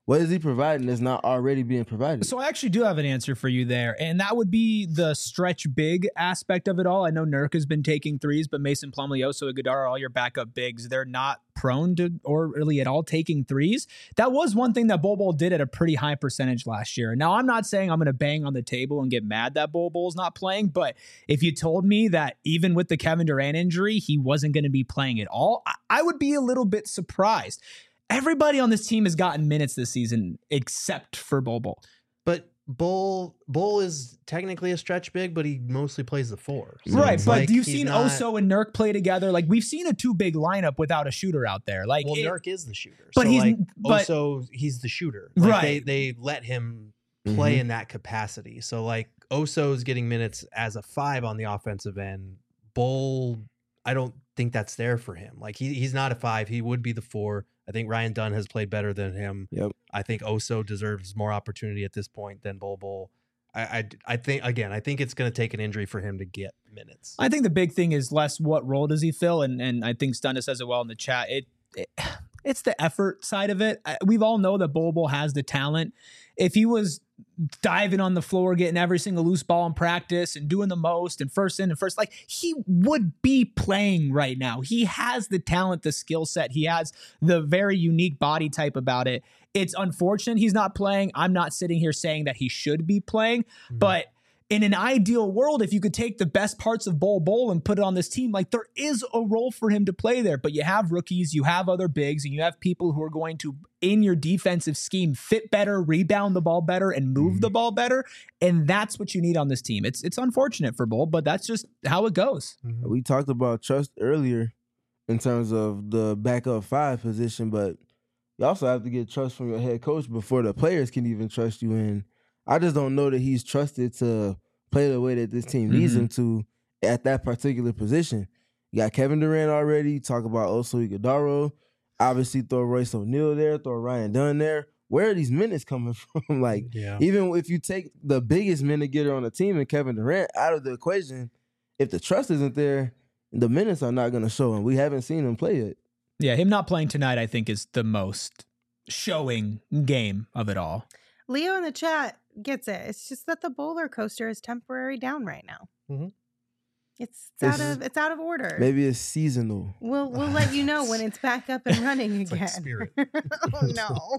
What is he providing that's not already being provided? So I actually do have an answer for you there, and that would be the stretch big aspect of it all. I know Nurk has been taking threes, but Mason Plumlee, Oso Ighodaro, all your backup bigs, they're not prone to or really at all taking threes. That was one thing that Bol Bol did at a pretty high percentage last year. Now, I'm not saying I'm going to bang on the table and get mad that Bol Bol's not playing, but if you told me that even with the Kevin Durant injury, he wasn't going to be playing at all, I, I would be a little bit surprised. Everybody on this team has gotten minutes this season except for Bol Bol. But Bol Bol is technically a stretch big, but he mostly plays the four. So Right, it's but like you've he's seen not- Oso and Nurk play together. Like, we've seen a two big lineup without a shooter out there. Like, Well, it- Nurk is the shooter, but so he's- like but- Oso, he's the shooter. Like, Right. They they let him play Mhm. in that capacity. So like Oso's getting minutes as a five on the offensive end. Bol, I don't think that's there for him. Like he he's not a five. He would be the four. I think Ryan Dunn has played better than him. Yep. I think Oso deserves more opportunity at this point than Bol Bol. I, I, I think, again, I think it's going to take an injury for him to get minutes. I think the big thing is less what role does he fill, and and I think Stunna says it well in the chat. It, it it's the effort side of it. I, we've all know that Bol Bol has the talent. If he was diving on the floor, getting every single loose ball in practice and doing the most and first in and first, like he would be playing right now. He has the talent, the skill set. He has the very unique body type about it. It's unfortunate he's not playing. I'm not sitting here saying that he should be playing, Mm-hmm. but in an ideal world, if you could take the best parts of Bol Bol and put it on this team, like there is a role for him to play there. But you have rookies, you have other bigs, and you have people who are going to, in your defensive scheme, fit better, rebound the ball better, and move Mm-hmm. the ball better. And that's what you need on this team. It's it's unfortunate for Bol, but that's just how it goes. Mhm. We talked about trust earlier in terms of the backup five position, but you also have to get trust from your head coach before the players can even trust you. And I just don't know that he's trusted to play the way that this team needs Mhm. him to at that particular position. You got Kevin Durant already. Talk about Oso Ighodaro. Obviously, throw Royce O'Neal there, throw Ryan Dunn there. Where are these minutes coming from? Like, Yeah. even if you take the biggest minute getter on the team and Kevin Durant out of the equation, if the trust isn't there, the minutes are not going to show, and we haven't seen him play it. Yeah, him not playing tonight, I think, is the most showing game of it all. Leo in the chat gets it. It's just that the roller coaster is temporary down right now. Mhm. It's, it's out It's- of it's out of order. Maybe it's seasonal. We'll we'll let you know when it's back up and running It's again. like Spirit. Oh no.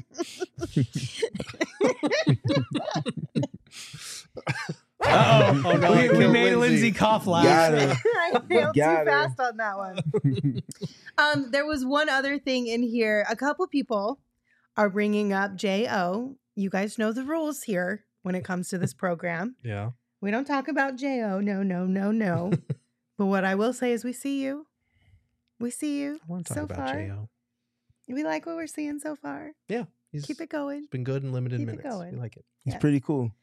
Uh-oh. Oh, no, I we, we killed made Lindsay Lindsay. cough laugh. Got her. I failed too Got her. fast on that one. Um, there was one other thing in here. A couple people are bringing up J O. You guys know the rules here when it comes to this program. Yeah. We don't talk about J O. No, no, no, no. But what I will say is we see you. We see you I want to talk so about far. J O. We like what we're seeing so far. Yeah. He's Keep it going. been good in limited keep it minutes. going. We like it. He's Yeah. pretty cool.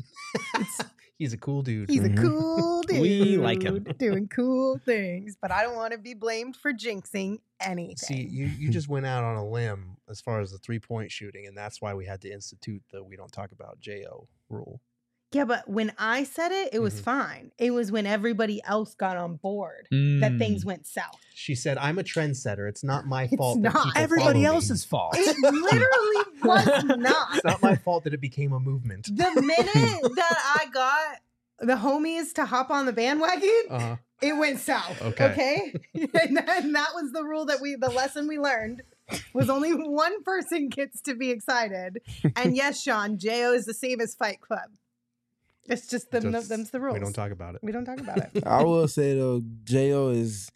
He's a cool dude. He's Mhm. a cool dude. We like him. Doing cool things. But I don't want to be blamed for jinxing anything. See, you, you just went out on a limb as far as the three point shooting, and that's why we had to institute the we don't talk about J O rule. Yeah, but when I said it, it was Mhm. fine. It was when everybody else got on board that Mm. things went south. She said, "I'm a trendsetter. It's not my It's fault. that not. people Everybody follow me. else's fault. It literally was not. It's not my fault that it became a movement." The minute that I got the homies to hop on the bandwagon, Uh-huh. it went south. Okay. Okay. and, that, and that was the rule that we, the lesson we learned was only one person gets to be excited. And yes, Sean, J O is the same as Fight Club. It's just them, Just- them's the rules. We don't talk about it. We don't talk about it. I will say though, J O is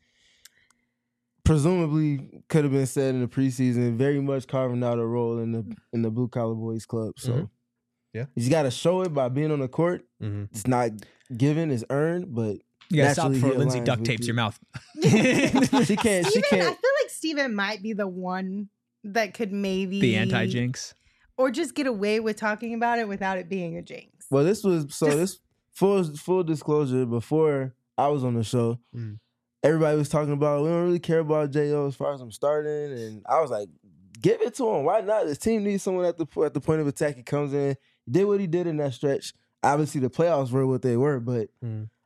presumably could have been said in the preseason, very much carving out a role in the in the Blue Collar Boys club. So Mhm. Yeah. you got to show it by being on the court. Mm-hmm. It's not given, it's earned, but You gotta stop naturally before he Lindsay aligns duct with tapes you. your mouth. she can't. She Steven, I can't. feel like Steven might be the one that could maybe The anti jinx. or just get away with talking about it without it being a jinx. Well, this was so. Just- this full full disclosure. Before I was on the show, Mm. everybody was talking about we don't really care about J O as far as I'm starting, and I was like, give it to him. Why not? This team needs someone at the at the point of attack. He comes in, he did what he did in that stretch. Obviously, the playoffs were what they were, but Mm.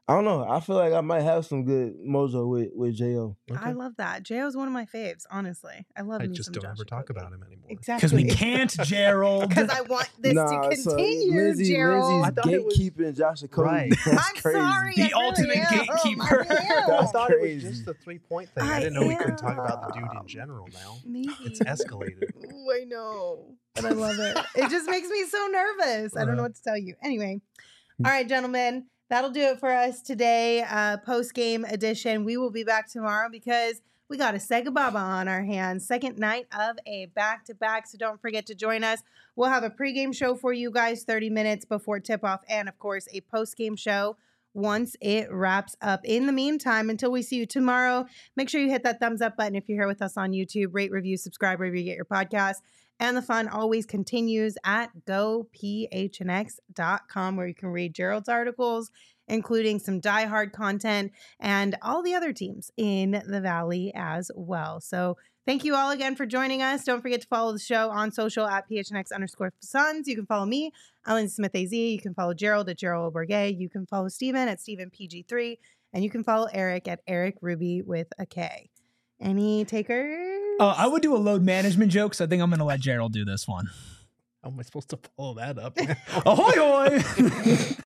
I don't know. I feel like I might have some good mojo with with J O. I love that. J O's one of my faves, honestly. I love I me just some don't Josh ever talk Okogie. about him anymore. Exactly. Because we can't, Gerald. Because I want this Nah, to so continue, Lindsay, Gerald. Lindsay's I thought it was- gatekeeping Josh Okogie. Right. That's I'm crazy. sorry. The I really ultimate am. gatekeeper. I am. I That's thought it was crazy. just the three point thing. I, I didn't know we couldn't talk about the dude am. in general now. Maybe. It's escalated. Ooh, I know. And I love it. It just makes me so nervous. I don't know Uh. what to tell you. Anyway. All right, gentlemen. That'll do it for us today. Uh, post-game edition. We will be back tomorrow because we got a Sega Baba on our hands. Second night of a back-to-back. So don't forget to join us. We'll have a pregame show for you guys thirty minutes before tip-off. And, of course, a post-game show once it wraps up. In the meantime, until we see you tomorrow, make sure you hit that thumbs up button if you're here with us on YouTube. Rate, review, subscribe wherever you get your podcast. And the fun always continues at go p h n x dot com, where you can read Gerald's articles, including some diehard content and all the other teams in the Valley as well. So thank you all again for joining us. Don't forget to follow the show on social at P H N X underscore Suns. You can follow me, Ellen Smith A Z. You can follow Gerald at Gerald Oberge. You can follow Steven at Steven P G three. And you can follow Eric at Eric Ruby with a K. Any takers? Uh, I would do a load management joke, so I think I'm going to let Gerald do this one. How am I supposed to follow that up? Ahoy, hoy!